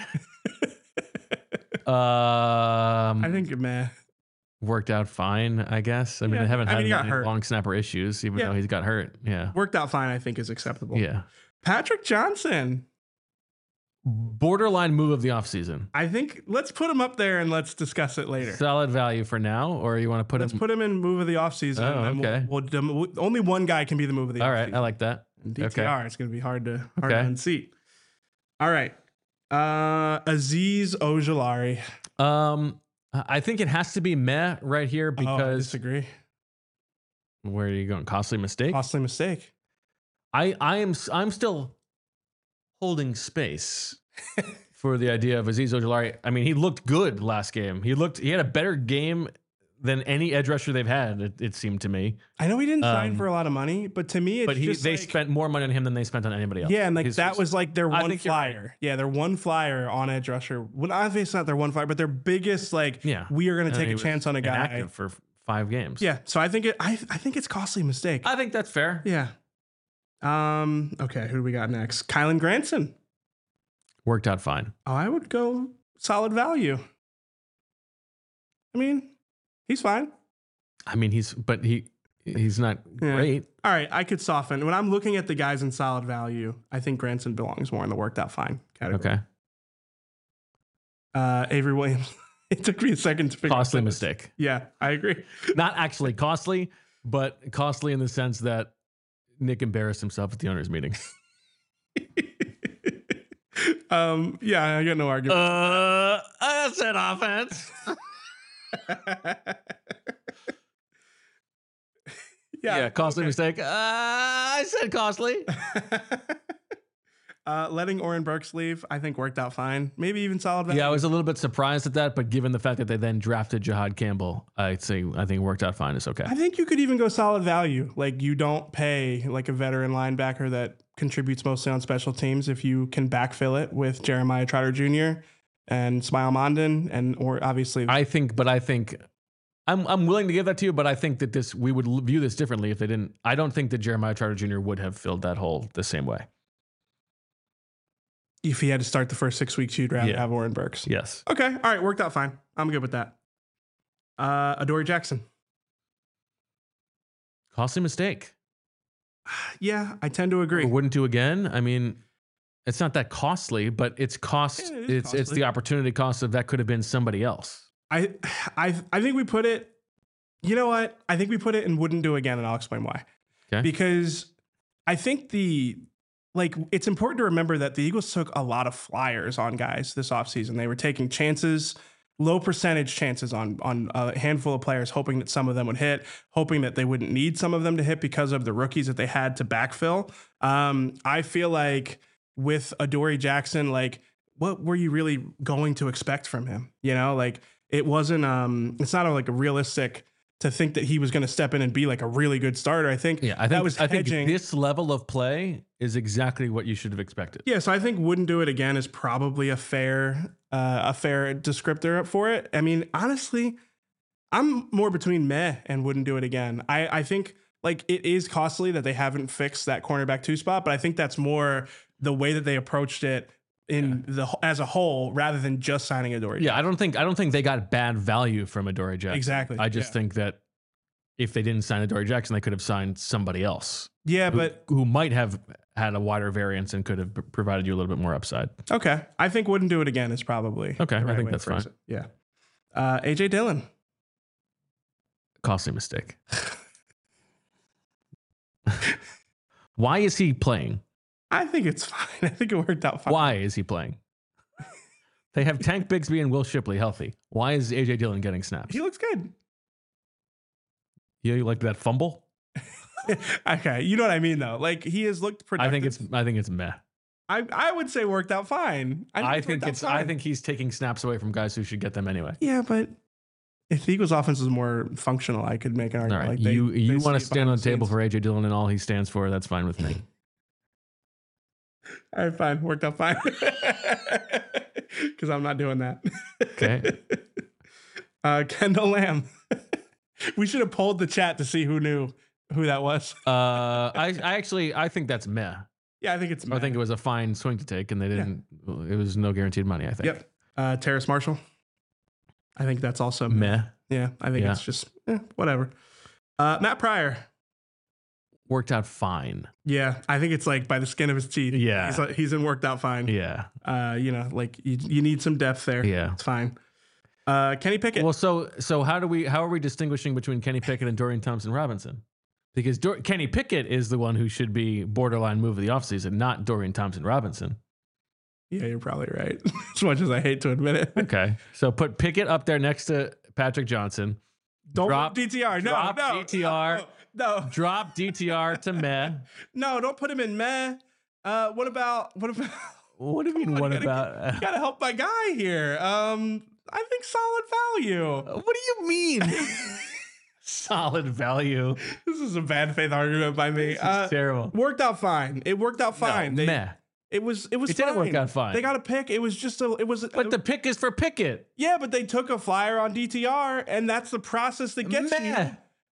I think man. Worked out fine, I guess. I mean, Yeah, I haven't had he got any hurt. long snapper issues, even Yeah. though he's got hurt. Yeah. Worked out fine, I think, is acceptable. Yeah. Patrick Johnson. Borderline move of the offseason. I think let's put him up there and let's discuss it later. Solid value for now, or you want to put Let's him? put him in move of the offseason. Oh, and okay. Only one guy can be the move of the All offseason. right. I like that. DTR, it's going to be hard to Okay. unseat. All right. Aziz Ojulari. I think it has to be meh right here I because disagree. where are you going? Costly mistake. Costly mistake. I'm still holding space for the idea of Aziz Ojulari. I mean, he looked good last game. He had a better game than any edge rusher they've had. It seemed to me. I know he didn't sign for a lot of money, but to me, it's just they like, spent more money on him than they spent on anybody else. yeah, and like that was like their I one think you're right. flyer. Yeah, their one flyer on edge rusher. Well, obviously it's not their one flyer, but their biggest like. Yeah. we are going to take He a was chance on a guy. inactive for 5 games. Yeah, so I think I think it's costly mistake. I think that's fair. Yeah. Okay, who do we got next? Kylan Granson. Worked out fine. Oh, I would go solid value. I mean, he's fine. I mean, he's not Yeah. great. All right, I could soften. When I'm looking at the guys in solid value, I think Granson belongs more in the worked out fine category. Okay. Avery Williams. It took me a second to figure Costly out this. mistake. Yeah, I agree. Not actually costly, but costly in the sense that Nick embarrassed himself at the owners' meeting. Yeah, I got no argument. I said offense. Yeah, costly okay. mistake. I said costly. Letting Oren Burks leave, I think worked out fine. Maybe even solid value. Yeah, I was a little bit surprised at that, but given the fact that they then drafted Jahad Campbell, I think it worked out fine. It's okay. I think you could even go solid value. Like you don't pay like a veteran linebacker that contributes mostly on special teams if you can backfill it with Jeremiah Trotter Jr. and Smile Mondon or obviously I think I'm willing to give that to you, but I think that we would view this differently if they didn't. I don't think that Jeremiah Trotter Jr. would have filled that hole the same way. if he had to start the first 6 weeks, you'd rather have Oren Burks. Yes. Okay. All right. Worked out fine. I'm good with that. Adoree Jackson. Costly mistake. Yeah, I tend to agree. Or wouldn't do again. I mean, it's not that costly, but it's cost. Yeah, it's the opportunity cost of that could have been somebody else. I think we put it. You know what? I think we put it in wouldn't do again, and I'll explain why. Okay. Because I think it's important to remember that the Eagles took a lot of flyers on guys this offseason. They were taking chances, low percentage chances on a handful of players, hoping that some of them would hit, hoping that they wouldn't need some of them to hit because of the rookies that they had to backfill. I feel like with Adoree Jackson, like, what were you really going to expect from him? You know, like it wasn't, it's not like a realistic to think that he was going to step in and be like a really good starter. I think I think this level of play is exactly what you should have expected. Yeah, so I think wouldn't do it again is probably a fair descriptor for it. I mean, honestly, I'm more between meh and wouldn't do it again. I think like it is costly that they haven't fixed that cornerback 2 spot, but I think that's more the way that they approached it as a whole rather than just signing Adoree. Yeah, I don't think they got bad value from Adoree Jackson. Exactly. I just think that if they didn't sign Adoree Jackson, they could have signed somebody else. Yeah, but who might have had a wider variance and could have provided you a little bit more upside. Okay, I think wouldn't do it again is probably okay. the right I think way that's to phrase fine. it. Yeah, AJ Dillon. Costly mistake. Why is he playing? I think it's fine. I think it worked out fine. Why is he playing? They have Tank Bigsby and Will Shipley healthy. Why is AJ Dillon getting snaps? He looks good. Yeah, you like that fumble? Okay, you know what I mean though. Like he has looked productive. I think it's meh. I would say worked out fine. I think he's taking snaps away from guys who should get them anyway. Yeah, but if the Eagles offense was more functional, I could make an argument. All right. Like you want to stand on the table for AJ Dillon and all he stands for, that's fine with me. All right, fine. Worked out fine. Because I'm not doing that. Okay. Kendall Lamb. We should have polled the chat to see who knew who that was. I think that's meh. Yeah, I think it's meh. I think it was a fine swing to take, and they didn't. Yeah. It was no guaranteed money. I think. Yep. Terrace Marshall. I think that's also meh. Yeah, I think it's just whatever. Matt Pryor. Worked out fine. Yeah, I think it's like by the skin of his teeth. Yeah, he's in worked out fine. Yeah. Like you need some depth there. Yeah, it's fine. Kenny Pickett. Well, so how are we distinguishing between Kenny Pickett and Dorian Thompson-Robinson? Because Kenny Pickett is the one who should be borderline move of the offseason, not Dorian Thompson-Robinson. Yeah, you're probably right. As much as I hate to admit it. Okay, so put Pickett up there next to Patrick Johnson. Don't drop DTR. No, drop DTR. No. Drop DTR to meh. No, don't put him in meh. What about? What do you mean? What about? You gotta help my guy here. I think solid value. What do you mean? Solid value. This is a bad faith argument by me. Terrible. Worked out fine. It worked out fine. No, meh. It was. It didn't work out fine. They got a pick. It was just a. It was. But the pick is for Pickett. Yeah, but they took a flyer on DTR, and that's the process that gets you.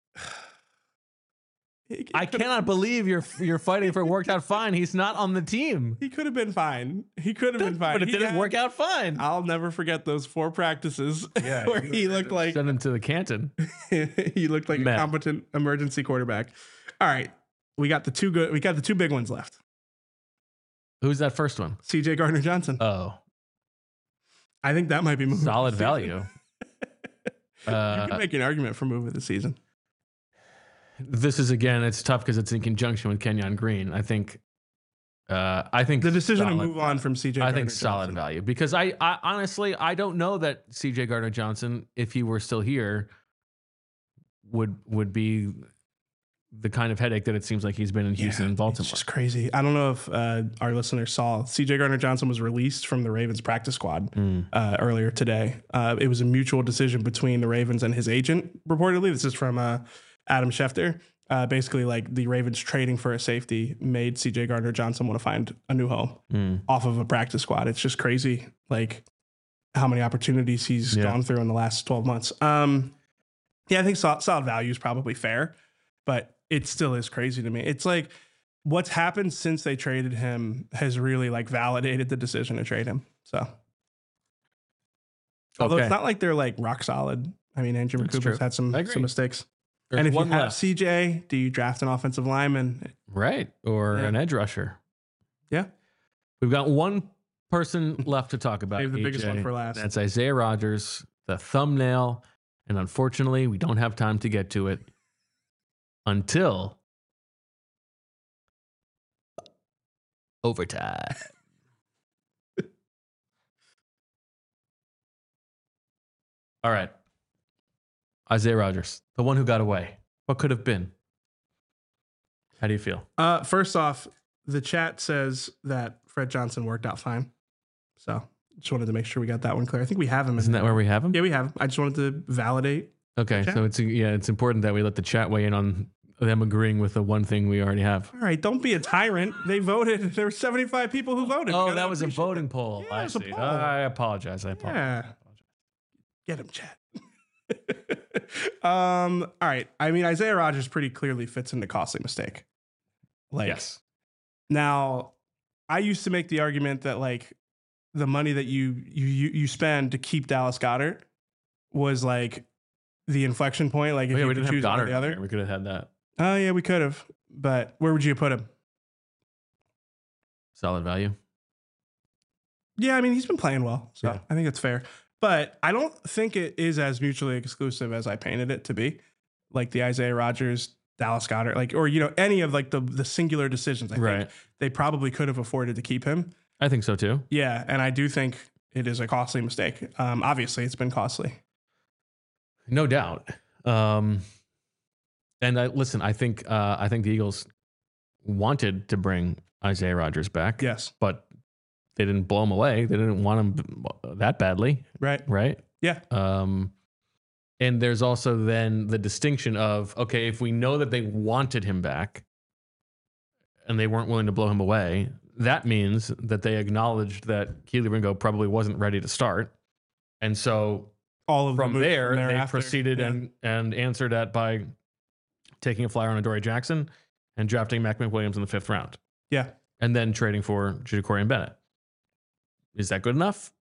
I cannot believe you're fighting for worked out fine. He's not on the team. He could have been fine. But it didn't work out fine. I'll never forget those 4 practices where he looked like send him to the Canton. He looked like a competent emergency quarterback. All right, we got the two big ones left. Who's that first one? CJ Gardner-Johnson. Oh, I think that might be move solid value. You can make an argument for move of the season. This is again, it's tough because it's in conjunction with Kenyon Green. I think the decision to move on from CJ. I think solid value because I honestly I don't know that CJ Gardner-Johnson, if he were still here, would be the kind of headache that it seems like he's been in Houston and Baltimore. It's just crazy. I don't know if our listeners saw CJ Gardner-Johnson was released from the Ravens practice squad earlier today. It was a mutual decision between the Ravens and his agent, reportedly. This is from Adam Schefter. Basically, like the Ravens trading for a safety made CJ Gardner-Johnson want to find a new home off of a practice squad. It's just crazy, like how many opportunities he's gone through in the last 12 months. I think solid value is probably fair, but it still is crazy to me. It's like what's happened since they traded him has really like validated the decision to trade him. So, although it's not like they're like rock solid. I mean, Andrew McCoup's had some mistakes. There's and if you have left. CJ, do you draft an offensive lineman? Right. Or an edge rusher. Yeah. We've got one person left to talk about. Save the biggest one for last. That's Isaiah Rodgers, the thumbnail. And unfortunately, we don't have time to get to it until overtime. All right. Isaiah Rodgers, the one who got away. What could have been? How do you feel? First off, the chat says that Fred Johnson worked out fine. So just wanted to make sure we got that one clear. I think we have him. Isn't that where we have him? Yeah, we have him. I just wanted to validate. Okay, so it's important that we let the chat weigh in on them agreeing with the one thing we already have. All right, don't be a tyrant. They voted. There were 75 people who voted. Oh, that was a voting poll. Yeah, I it was a see. poll. I apologize. Yeah. Get him, chat. All right. I mean, Isaiah Rodgers pretty clearly fits into costly mistake. Like, Yes. Now, I used to make the argument that like the money that you spend to keep Dallas Goedert was like the inflection point. Like if you we could didn't have choose one or Goddard. the other. We could have had that. Oh yeah, we could have. But where would you put him? Solid value. Yeah, I mean he's been playing well, so Yeah. I think it's fair. But I don't think it is as mutually exclusive as I painted it to be. Like the Isaiah Rodgers, Dallas Goedert, like or any of like the singular decisions. I think they probably could have afforded to keep him. I think so too. Yeah, and I do think it is a costly mistake. Obviously, it's been costly. No doubt. And I think the Eagles wanted to bring Isaiah Rodgers back. Yes. But they didn't blow him away. They didn't want him that badly. Right. Right. Yeah. And there's also then the distinction of, okay, if we know that they wanted him back and they weren't willing to blow him away, that means that they acknowledged that Keely Ringo probably wasn't ready to start. And so All of from there, they thereafter. proceeded Yeah. and answered that by taking a flyer on Adoree Jackson and drafting Mac McWilliams in the 5th round. Yeah. And then trading for Ja'Cory Bennett. Is that good enough?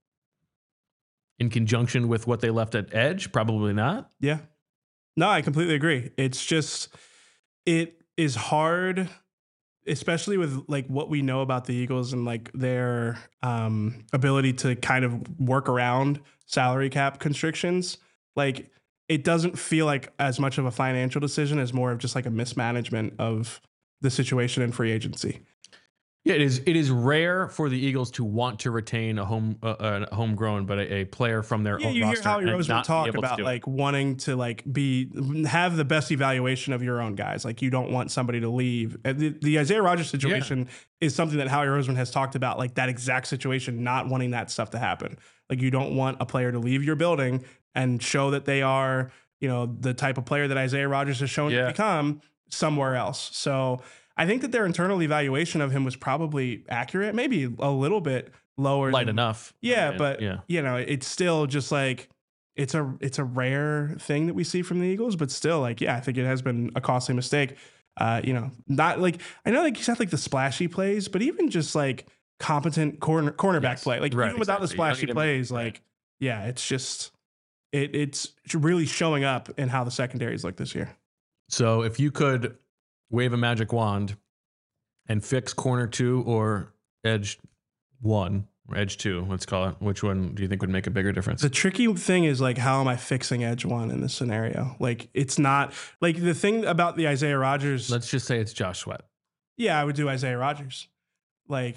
In conjunction with what they left at edge? Probably not. Yeah. No, I completely agree. It's just, it is hard, especially with like what we know about the Eagles and like their ability to kind of work around salary cap constrictions. Like it doesn't feel like as much of a financial decision as more of just like a mismanagement of the situation in free agency. Yeah, it is rare for the Eagles to want to retain a homegrown, but a player from their own you roster. hear Howie and Roseman not be talk able to about do it. like wanting to like have the best evaluation of your own guys. Like you don't want somebody to leave. And the Isaiah Rodgers situation is something that Howie Roseman has talked about, like that exact situation, not wanting that stuff to happen. Like you don't want a player to leave your building and show that they are, the type of player that Isaiah Rodgers has shown to become somewhere else. So I think that their internal evaluation of him was probably accurate, maybe a little bit lower. Light enough. Yeah, but it's still just like it's a rare thing that we see from the Eagles, but still like, I think it has been a costly mistake. Not like I know like he's had like the splashy plays, but even just like competent cornerback play, like even without the splashy plays, like it's just it's really showing up in how the secondaries look this year. So if you could wave a magic wand and fix corner 2 or edge 1 or edge 2, let's call it, which one do you think would make a bigger difference? The tricky thing is like, how am I fixing edge 1 in this scenario? Like it's not like the thing about the Isaiah Rodgers. Let's just say it's Josh Sweat. Yeah, I would do Isaiah Rodgers. Like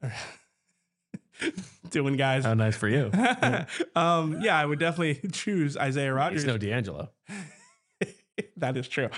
doing guys. How nice for you. I would definitely choose Isaiah Rodgers. He's no D'Angelo. That is true.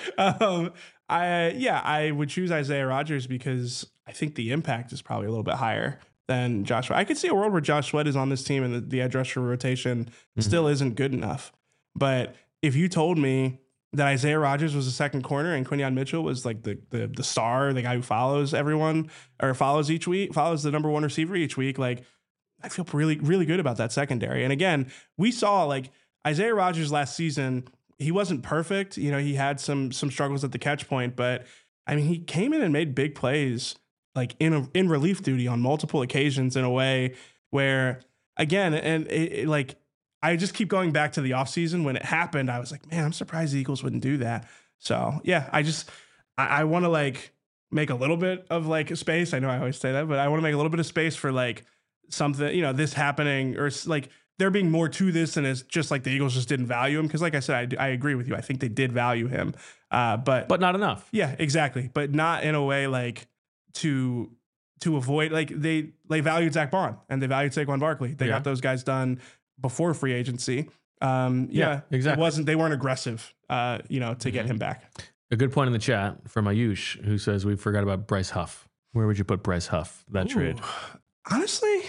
I would choose Isaiah Rodgers because I think the impact is probably a little bit higher than Josh Sweat. I could see a world where Josh Sweat is on this team and the edge rusher rotation still isn't good enough. But if you told me that Isaiah Rodgers was the second corner and Quinyon Mitchell was like the star, the guy who follows everyone or follows each week, follows the number one receiver each week, like I feel really, really good about that secondary. And again, we saw like Isaiah Rodgers last season, he wasn't perfect. You know, he had some struggles at the catch point, but I mean, he came in and made big plays like in relief duty on multiple occasions in a way where, again, and like I just keep going back to the offseason when it happened. I was like, man, I'm surprised the Eagles wouldn't do that. So yeah, I want to like make a little bit of like a space. I know I always say that, but I want to make a little bit of space for like something, you know, this happening or like there being more to this than it's just like the Eagles just didn't value him. Cause like I said, I agree with you. I think they did value him. But not enough. Yeah, exactly. But not in a way like to avoid, like they valued Zach Bond and they valued Saquon Barkley. They got those guys done before free agency. Exactly. They weren't aggressive, to get him back. A good point in the chat from Ayush, who says we forgot about Bryce Huff. Where would you put Bryce Huff, that trade? Honestly,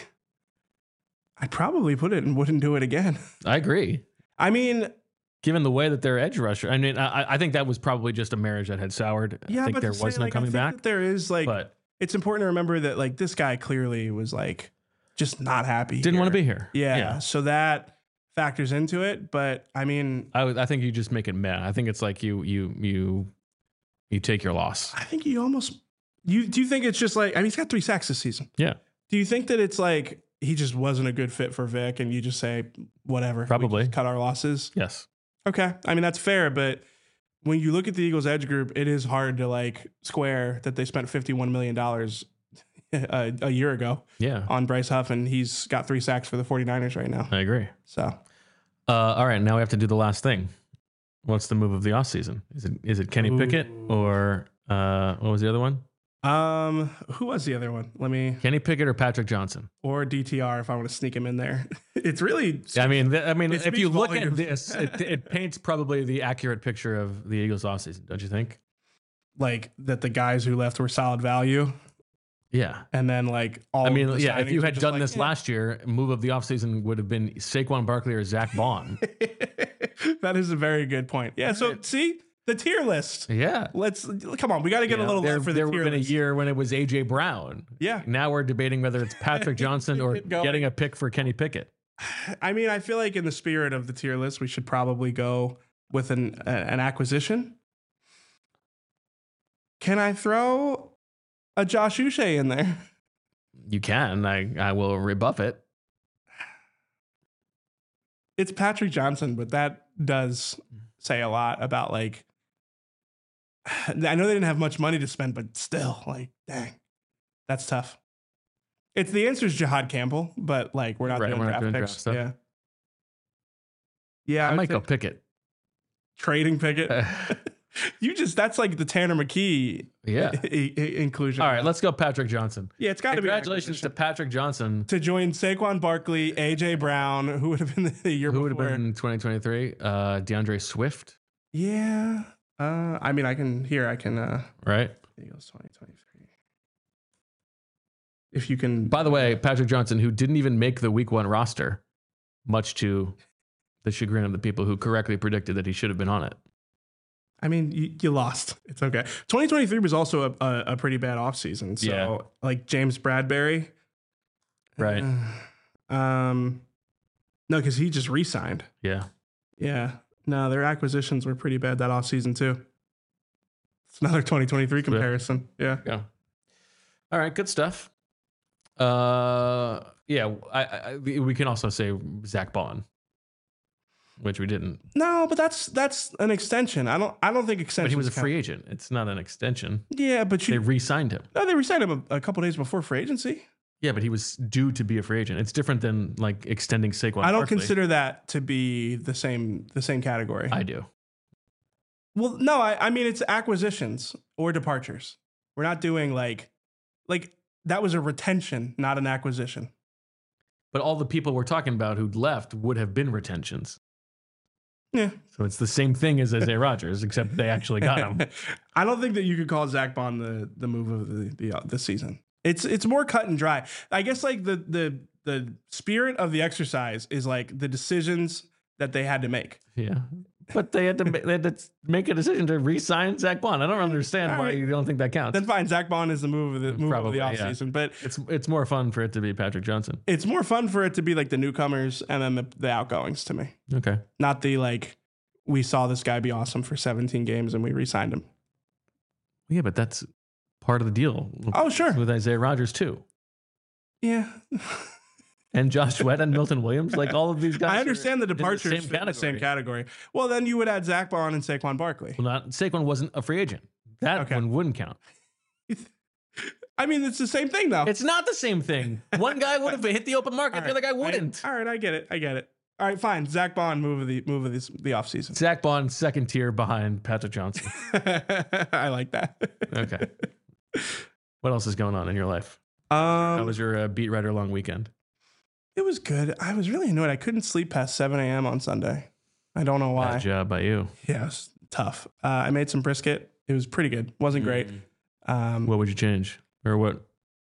I'd probably put it and wouldn't do it again. I agree. I mean, given the way that they're edge rusher, I mean, I think that was probably just a marriage that had soured. Yeah, I think but there was no coming back. There is like, but it's important to remember that like this guy clearly was like just not happy. Didn't want to be here. Yeah. So that factors into it. But I mean, I think you just make it meh. I think it's like you take your loss. I think you almost, do you think it's just like, I mean, he's got 3 sacks this season. Yeah. Do you think that it's like, he just wasn't a good fit for Vic and you just say, whatever, probably we just cut our losses? Yes. Okay. I mean, that's fair. But when you look at the Eagles edge group, it is hard to like square that they spent $51 million a year ago on Bryce Huff, and he's got 3 sacks for the 49ers right now. I agree. So, all right, now we have to do the last thing. What's the move of the offseason? Is it Kenny Pickett or what was the other one? Who was the other one? Kenny Pickett or Patrick Johnson or DTR if I want to sneak him in there. It's really. I mean, if you look at this, it paints probably the accurate picture of the Eagles offseason, don't you think? Like that the guys who left were solid value. Yeah. And then like if you had done this last year, move of the offseason would have been Saquon Barkley or Zach Bond. That is a very good point. Yeah. So see the tier list. Yeah. Come on. We got to get a little love for the tier list. There would have been a year when it was AJ Brown. Yeah. Now we're debating whether it's Patrick Johnson or getting a pick for Kenny Pickett. I mean, I feel like in the spirit of the tier list, we should probably go with an acquisition. Can I throw a Josh Uche in there? You can. I will rebuff it. It's Patrick Johnson, but that does say a lot about like, I know they didn't have much money to spend, but still, like, dang, that's tough. The answer is Jihad Campbell, but like we're not doing draft picks. Stuff. Yeah. Yeah. I might go Pickett. Trading Pickett. That's like the Tanner McKee inclusion. All right, let's go Patrick Johnson. Yeah, it's got to be. Congratulations to Patrick Johnson. To join Saquon Barkley, AJ Brown, who would have been the year before. Who would have been in 2023? DeAndre Swift. Yeah. I mean, I can. Right. Eagles 2023. If you can. By the way, Patrick Johnson, who didn't even make the Week 1 roster, much to the chagrin of the people who correctly predicted that he should have been on it. I mean, you lost. It's okay. 2023 was also a pretty bad offseason. So, like James Bradbury. Right. No, because he just re-signed. Yeah. Yeah. No, their acquisitions were pretty bad that offseason, too. It's another 2023 comparison. Yeah. All right. Good stuff. We can also say Zach Bond. Which we didn't. No, but that's an extension. I don't think extension. But he was a free agent. It's not an extension. Yeah, but they re-signed him. No, they re-signed him a couple days before free agency. Yeah, but he was due to be a free agent. It's different than like extending Saquon. I don't consider that to be the same category. I do. Well, no, I mean it's acquisitions or departures. We're not doing like that was a retention, not an acquisition. But all the people we're talking about who left would have been retentions. Yeah. So it's the same thing as Isaiah Rodgers, except they actually got him. I don't think that you could call Zach Bond the move of the season. It's more cut and dry. I guess like the spirit of the exercise is like the decisions that they had to make. Yeah. But they had to make a decision to re-sign Zach Bond. I don't understand why you don't think that counts. Then fine, Zach Bond is the move of the Probably, offseason. But it's more fun for it to be Patrick Johnson. it's more fun for it to be like the newcomers and then the outgoings to me. Okay. Not the like, we saw this guy be awesome for 17 games and we re-signed him. Yeah, but that's part of the deal. Oh, sure. With Isaiah Rodgers too. Yeah. And Josh Sweat and Milton Williams, like all of these guys. I understand the in departures fit in the same category. Well, then you would add Zach Bond and Saquon Barkley. Well, Saquon wasn't a free agent. That one wouldn't count. I mean, it's the same thing though. It's not the same thing. One guy would have hit the open market, the other guy wouldn't. All right, I get it. All right, fine. Zach Bond, move of the offseason. Zach Bond, second tier behind Patrick Johnson. I like that. Okay. What else is going on in your life? How was your beat writer long weekend? It was good. I was really annoyed. I couldn't sleep past 7 a.m. on Sunday. I don't know why. Bad job by you. Yeah, it was tough. I made some brisket. It was pretty good. Wasn't great. What would you change? Or what?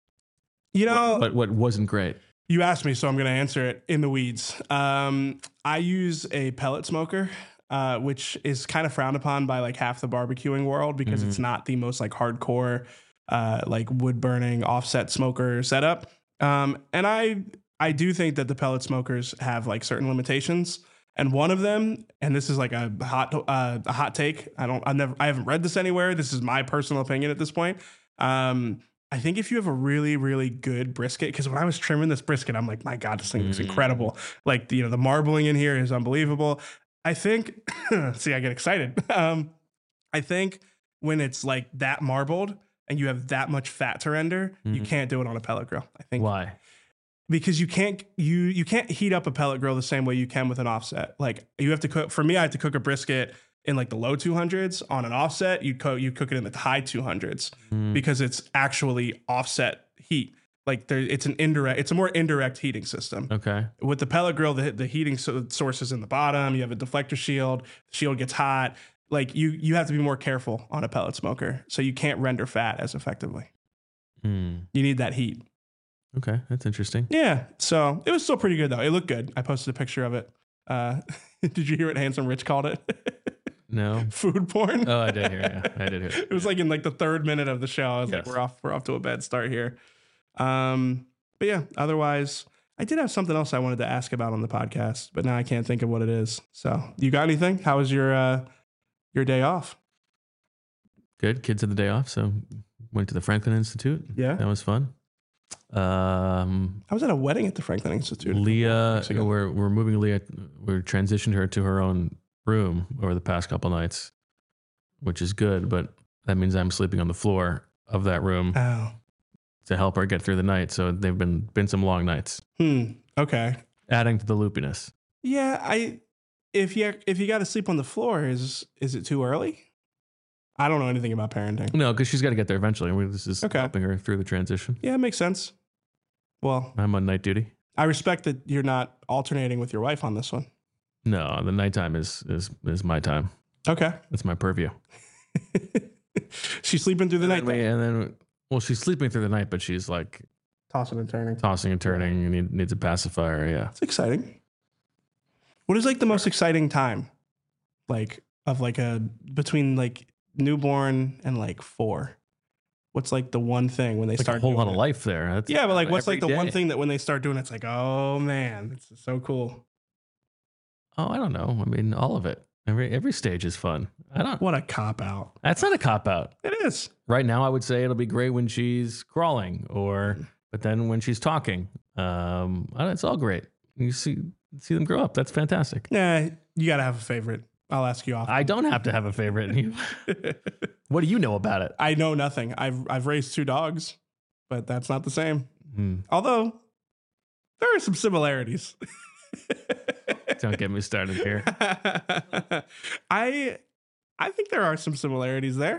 What wasn't great? You asked me, so I'm going to answer it in the weeds. I use a pellet smoker, which is kind of frowned upon by like half the barbecuing world because it's not the most like hardcore, like wood burning offset smoker setup. And I do think that the pellet smokers have like certain limitations. And one of them, and this is like a hot take. I haven't read this anywhere. This is my personal opinion at this point. I think if you have a really, really good brisket, because when I was trimming this brisket, I'm like, my God, this thing looks incredible. Like, the marbling in here is unbelievable. I think, see, I get excited. I think when it's like that marbled and you have that much fat to render, you can't do it on a pellet grill. I think. Why? Because you can't heat up a pellet grill the same way you can with an offset. Like you have to cook. For me, I had to cook a brisket in like the low 200s. On an offset, you cook it in the high 200s because it's actually offset heat. Like it's a more indirect heating system. Okay. With the pellet grill, the heating source is in the bottom. You have a deflector shield. The shield gets hot. Like you have to be more careful on a pellet smoker, so you can't render fat as effectively. You need that heat. Okay, that's interesting. Yeah, so it was still pretty good though. It looked good. I posted a picture of it. Did you hear what Handsome Rich called it? No. Food porn. Oh, I did hear. Yeah, I did hear. It was like in like the 3rd minute of the show. I was like, we're off to a bad start here. But yeah, otherwise, I did have something else I wanted to ask about on the podcast, but now I can't think of what it is. So, you got anything? How was your day off? Good. Kids had the day off, so went to the Franklin Institute. Yeah, that was fun. I was at a wedding at the Franklin Institute. Leah, we're moving Leah. We're transitioned her to her own room over the past couple nights, which is good, but that means I'm sleeping on the floor of that room to help her get through the night. So they've been some long nights. Okay. Adding to the loopiness. Yeah, if you got to sleep on the floor, is it too early? I don't know anything about parenting. No, because she's got to get there eventually. This is helping her through the transition. Yeah, it makes sense. Well, I'm on night duty. I respect that you're not alternating with your wife on this one. No, the nighttime is my time. Okay. That's my purview. She's sleeping through the night. Well, she's sleeping through the night, but she's like tossing and turning. And needs a pacifier. Yeah. It's exciting. What is like the most exciting time? Like between like newborn and like 4. What's like the one thing when they start a whole lot of life there? That's but like what's like the one thing that when they start doing it's like, oh man, it's so cool. Oh, I don't know. I mean, all of it. Every stage is fun. What a cop out. That's not a cop out. It is. Right now, I would say it'll be great when she's crawling, but then when she's talking, it's all great. You see them grow up. That's fantastic. Yeah, you got to have a favorite. I'll ask you off. I don't have to have a favorite. What do you know about it? I know nothing. I've raised 2 dogs, but that's not the same. Although there are some similarities. Don't get me started here. I think there are some similarities there.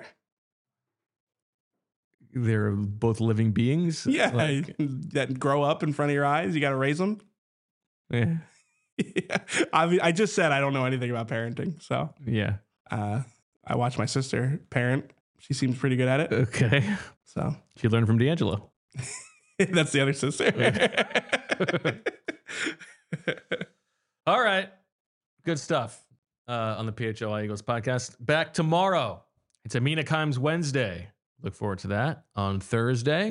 They're both living beings. Yeah, that grow up in front of your eyes. You got to raise them. Yeah. Yeah. I just said I don't know anything about parenting, so Yeah. I watch my sister parent. She seems pretty good at it. Okay. So She learned from D'Angelo. that's the other sister. All right. Good stuff on the PHLI Eagles podcast. Back tomorrow. It's Amina Kimes Wednesday. Look forward to that. On Thursday,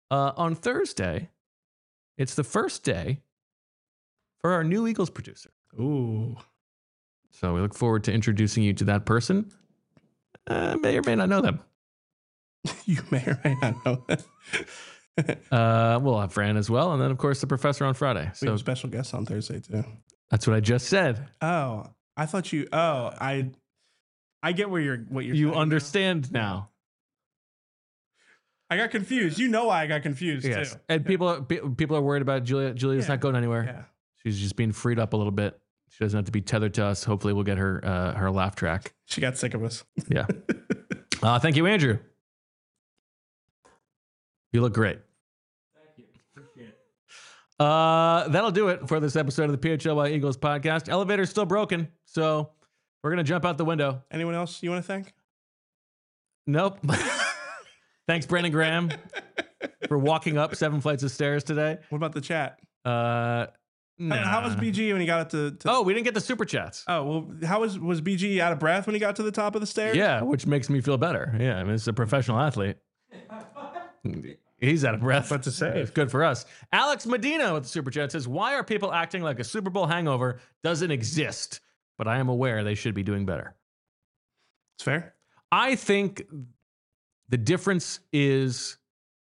it's the first day for our new Eagles producer. Ooh. So we look forward to introducing you to that person. May or may not know them. You may or may not know that. We'll have Fran as well. And then, of course, the professor on Friday. We have So a special guest on Thursday too. that's what I just said. Oh, I thought you. Oh, I get what you're You saying now. understand now. I got confused. You know why I got confused Yes. too. And people are worried about Julia. Julia's Yeah. not going anywhere. Yeah. She's just being freed up a little bit. She doesn't have to be tethered to us. Hopefully, we'll get her her laugh track. She got sick of us. Yeah. Thank you, Andrew. You look great. Thank you. Appreciate it. That'll do it for this episode of the PHLY Eagles podcast. Elevator's still broken, so we're gonna jump out the window. Anyone else you want to thank? Nope. Thanks, Brandon Graham, for walking up 7 flights of stairs today. What about the chat? Nah. How was BG when he got up to Oh, we didn't get the super chats. Oh, well, how was BG out of breath when he got to the top of the stairs? Yeah, which makes me feel better. Yeah, I mean, it's a professional athlete. He's out of breath. What to say? It's good for us. Alex Medina with the super chat says, "Why are people acting like a Super Bowl hangover doesn't exist? But I am aware they should be doing better." It's fair. I think the difference is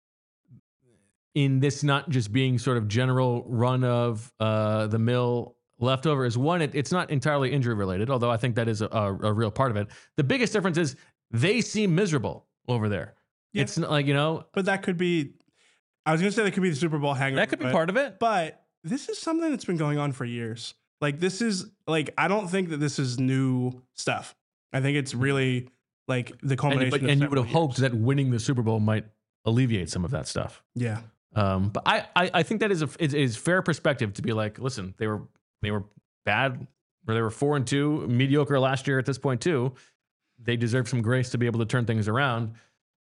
in this not just being sort of general run of the mill leftover is one, it's not entirely injury related, although I think that is a real part of it. The biggest difference is they seem miserable over there. Yeah. It's not like, you know, But that could be, I was going to say that could be the Super Bowl hangover. that could be part of it. But this is something that's been going on for years. Like, this is, like, I don't think that this is new stuff. I think it's really, like, the culmination And of you would have several hoped that winning the Super Bowl might alleviate some of that stuff. years. Yeah. But I think that is fair perspective to be like, listen, they were bad, or they were 4-2, mediocre last year at this point too. They deserve some grace to be able to turn things around.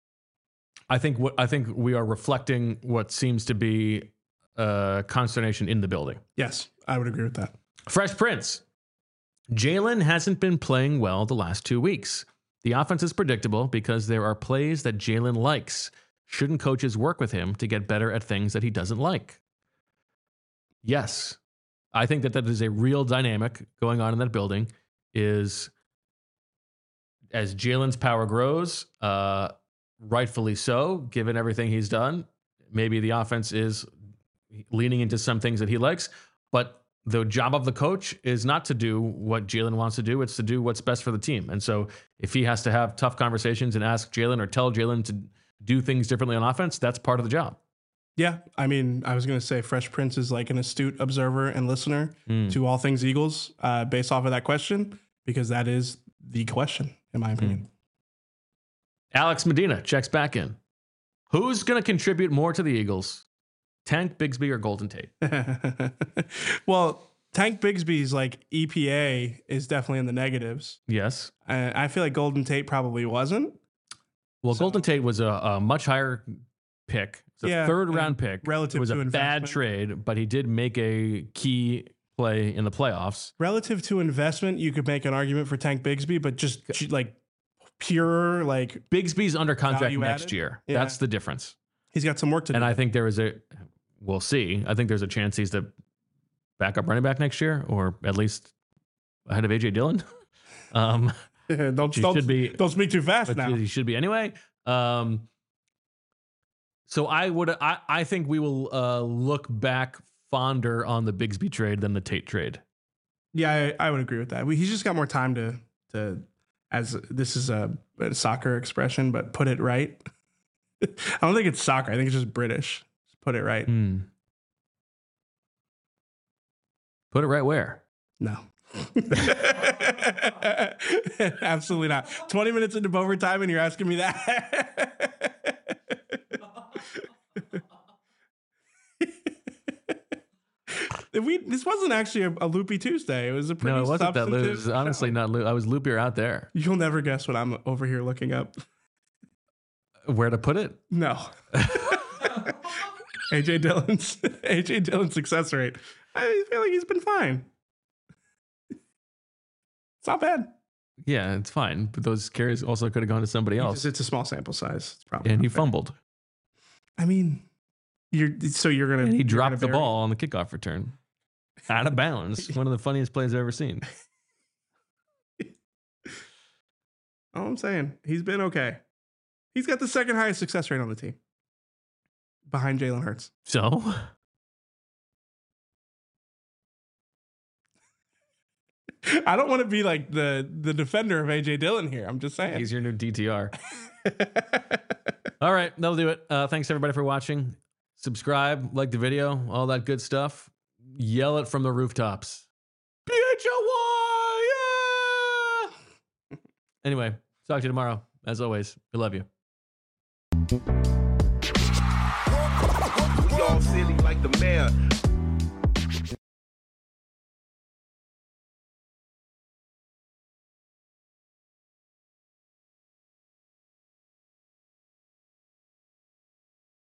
I think we are reflecting what seems to be consternation in the building. Yes, I would agree with that. Fresh Prince. Jalen hasn't been playing well the last 2 weeks. The offense is predictable because there are plays that Jalen likes. Shouldn't coaches work with him to get better at things that he doesn't like? Yes. I think that is a real dynamic going on in that building. Is as Jalen's power grows, rightfully so, given everything he's done, maybe the offense is leaning into some things that he likes, but the job of the coach is not to do what Jalen wants to do. It's to do what's best for the team. And so if he has to have tough conversations and ask Jalen or tell Jalen to do things differently on offense, that's part of the job. Yeah, I mean, I was going to say Fresh Prince is like an astute observer and listener to all things Eagles based off of that question, because that is the question, in my opinion. Alex Medina checks back in. Who's going to contribute more to the Eagles? Tank Bigsby or Golden Tate? Well, Tank Bigsby's like EPA is definitely in the negatives. Yes. I feel like Golden Tate probably wasn't. Well, Golden Tate was a much higher pick. It's a Yeah, third round pick. relative it was to a bad investment. trade, but he did make a key play in the playoffs. Relative to investment, you could make an argument for Tank Bigsby, but just like pure, like Bigsby's under contract Value next added? year. Yeah. That's the difference. he's got some work to And do. I think there is we'll see. I think there's a chance he's the backup running back next year, or at least ahead of AJ Dillon. don't should be- don't speak too fast But now. he should be anyway. So I think we will look back fonder on the Bigsby trade than the Tate trade. Yeah, I would agree with that. He's just got more time to, as this is a soccer expression, but put it right. I don't think it's soccer. I think it's just British. Just put it right. Put it right where? No. Absolutely not. 20 minutes into overtime and you're asking me that. This wasn't actually a loopy Tuesday. It was a pretty No, it wasn't that loop. It substantive was honestly show. not loop. I was loopier out there. You'll never guess what I'm over here looking up. Where to put it? No. AJ Dillon's success rate. I feel like he's been fine. It's not bad. Yeah, it's fine. But those carries also could have gone to somebody else. It's a small sample size. It's probably And he not fair. fumbled. I mean, you're gonna. And he you're dropped the gonna bury- ball on the kickoff return. Out of bounds. One of the funniest plays I've ever seen. All I'm saying, he's been okay. He's got the second highest success rate on the team, behind Jalen Hurts. So I don't want to be like the defender of AJ Dillon here. I'm just saying. he's your new DTR. All right, that'll do it. Thanks everybody for watching. Subscribe, like the video, all that good stuff. Yell it from the rooftops. PHLY! Yeah! Anyway, talk to you tomorrow. As always, we love you. We all silly like the mayor.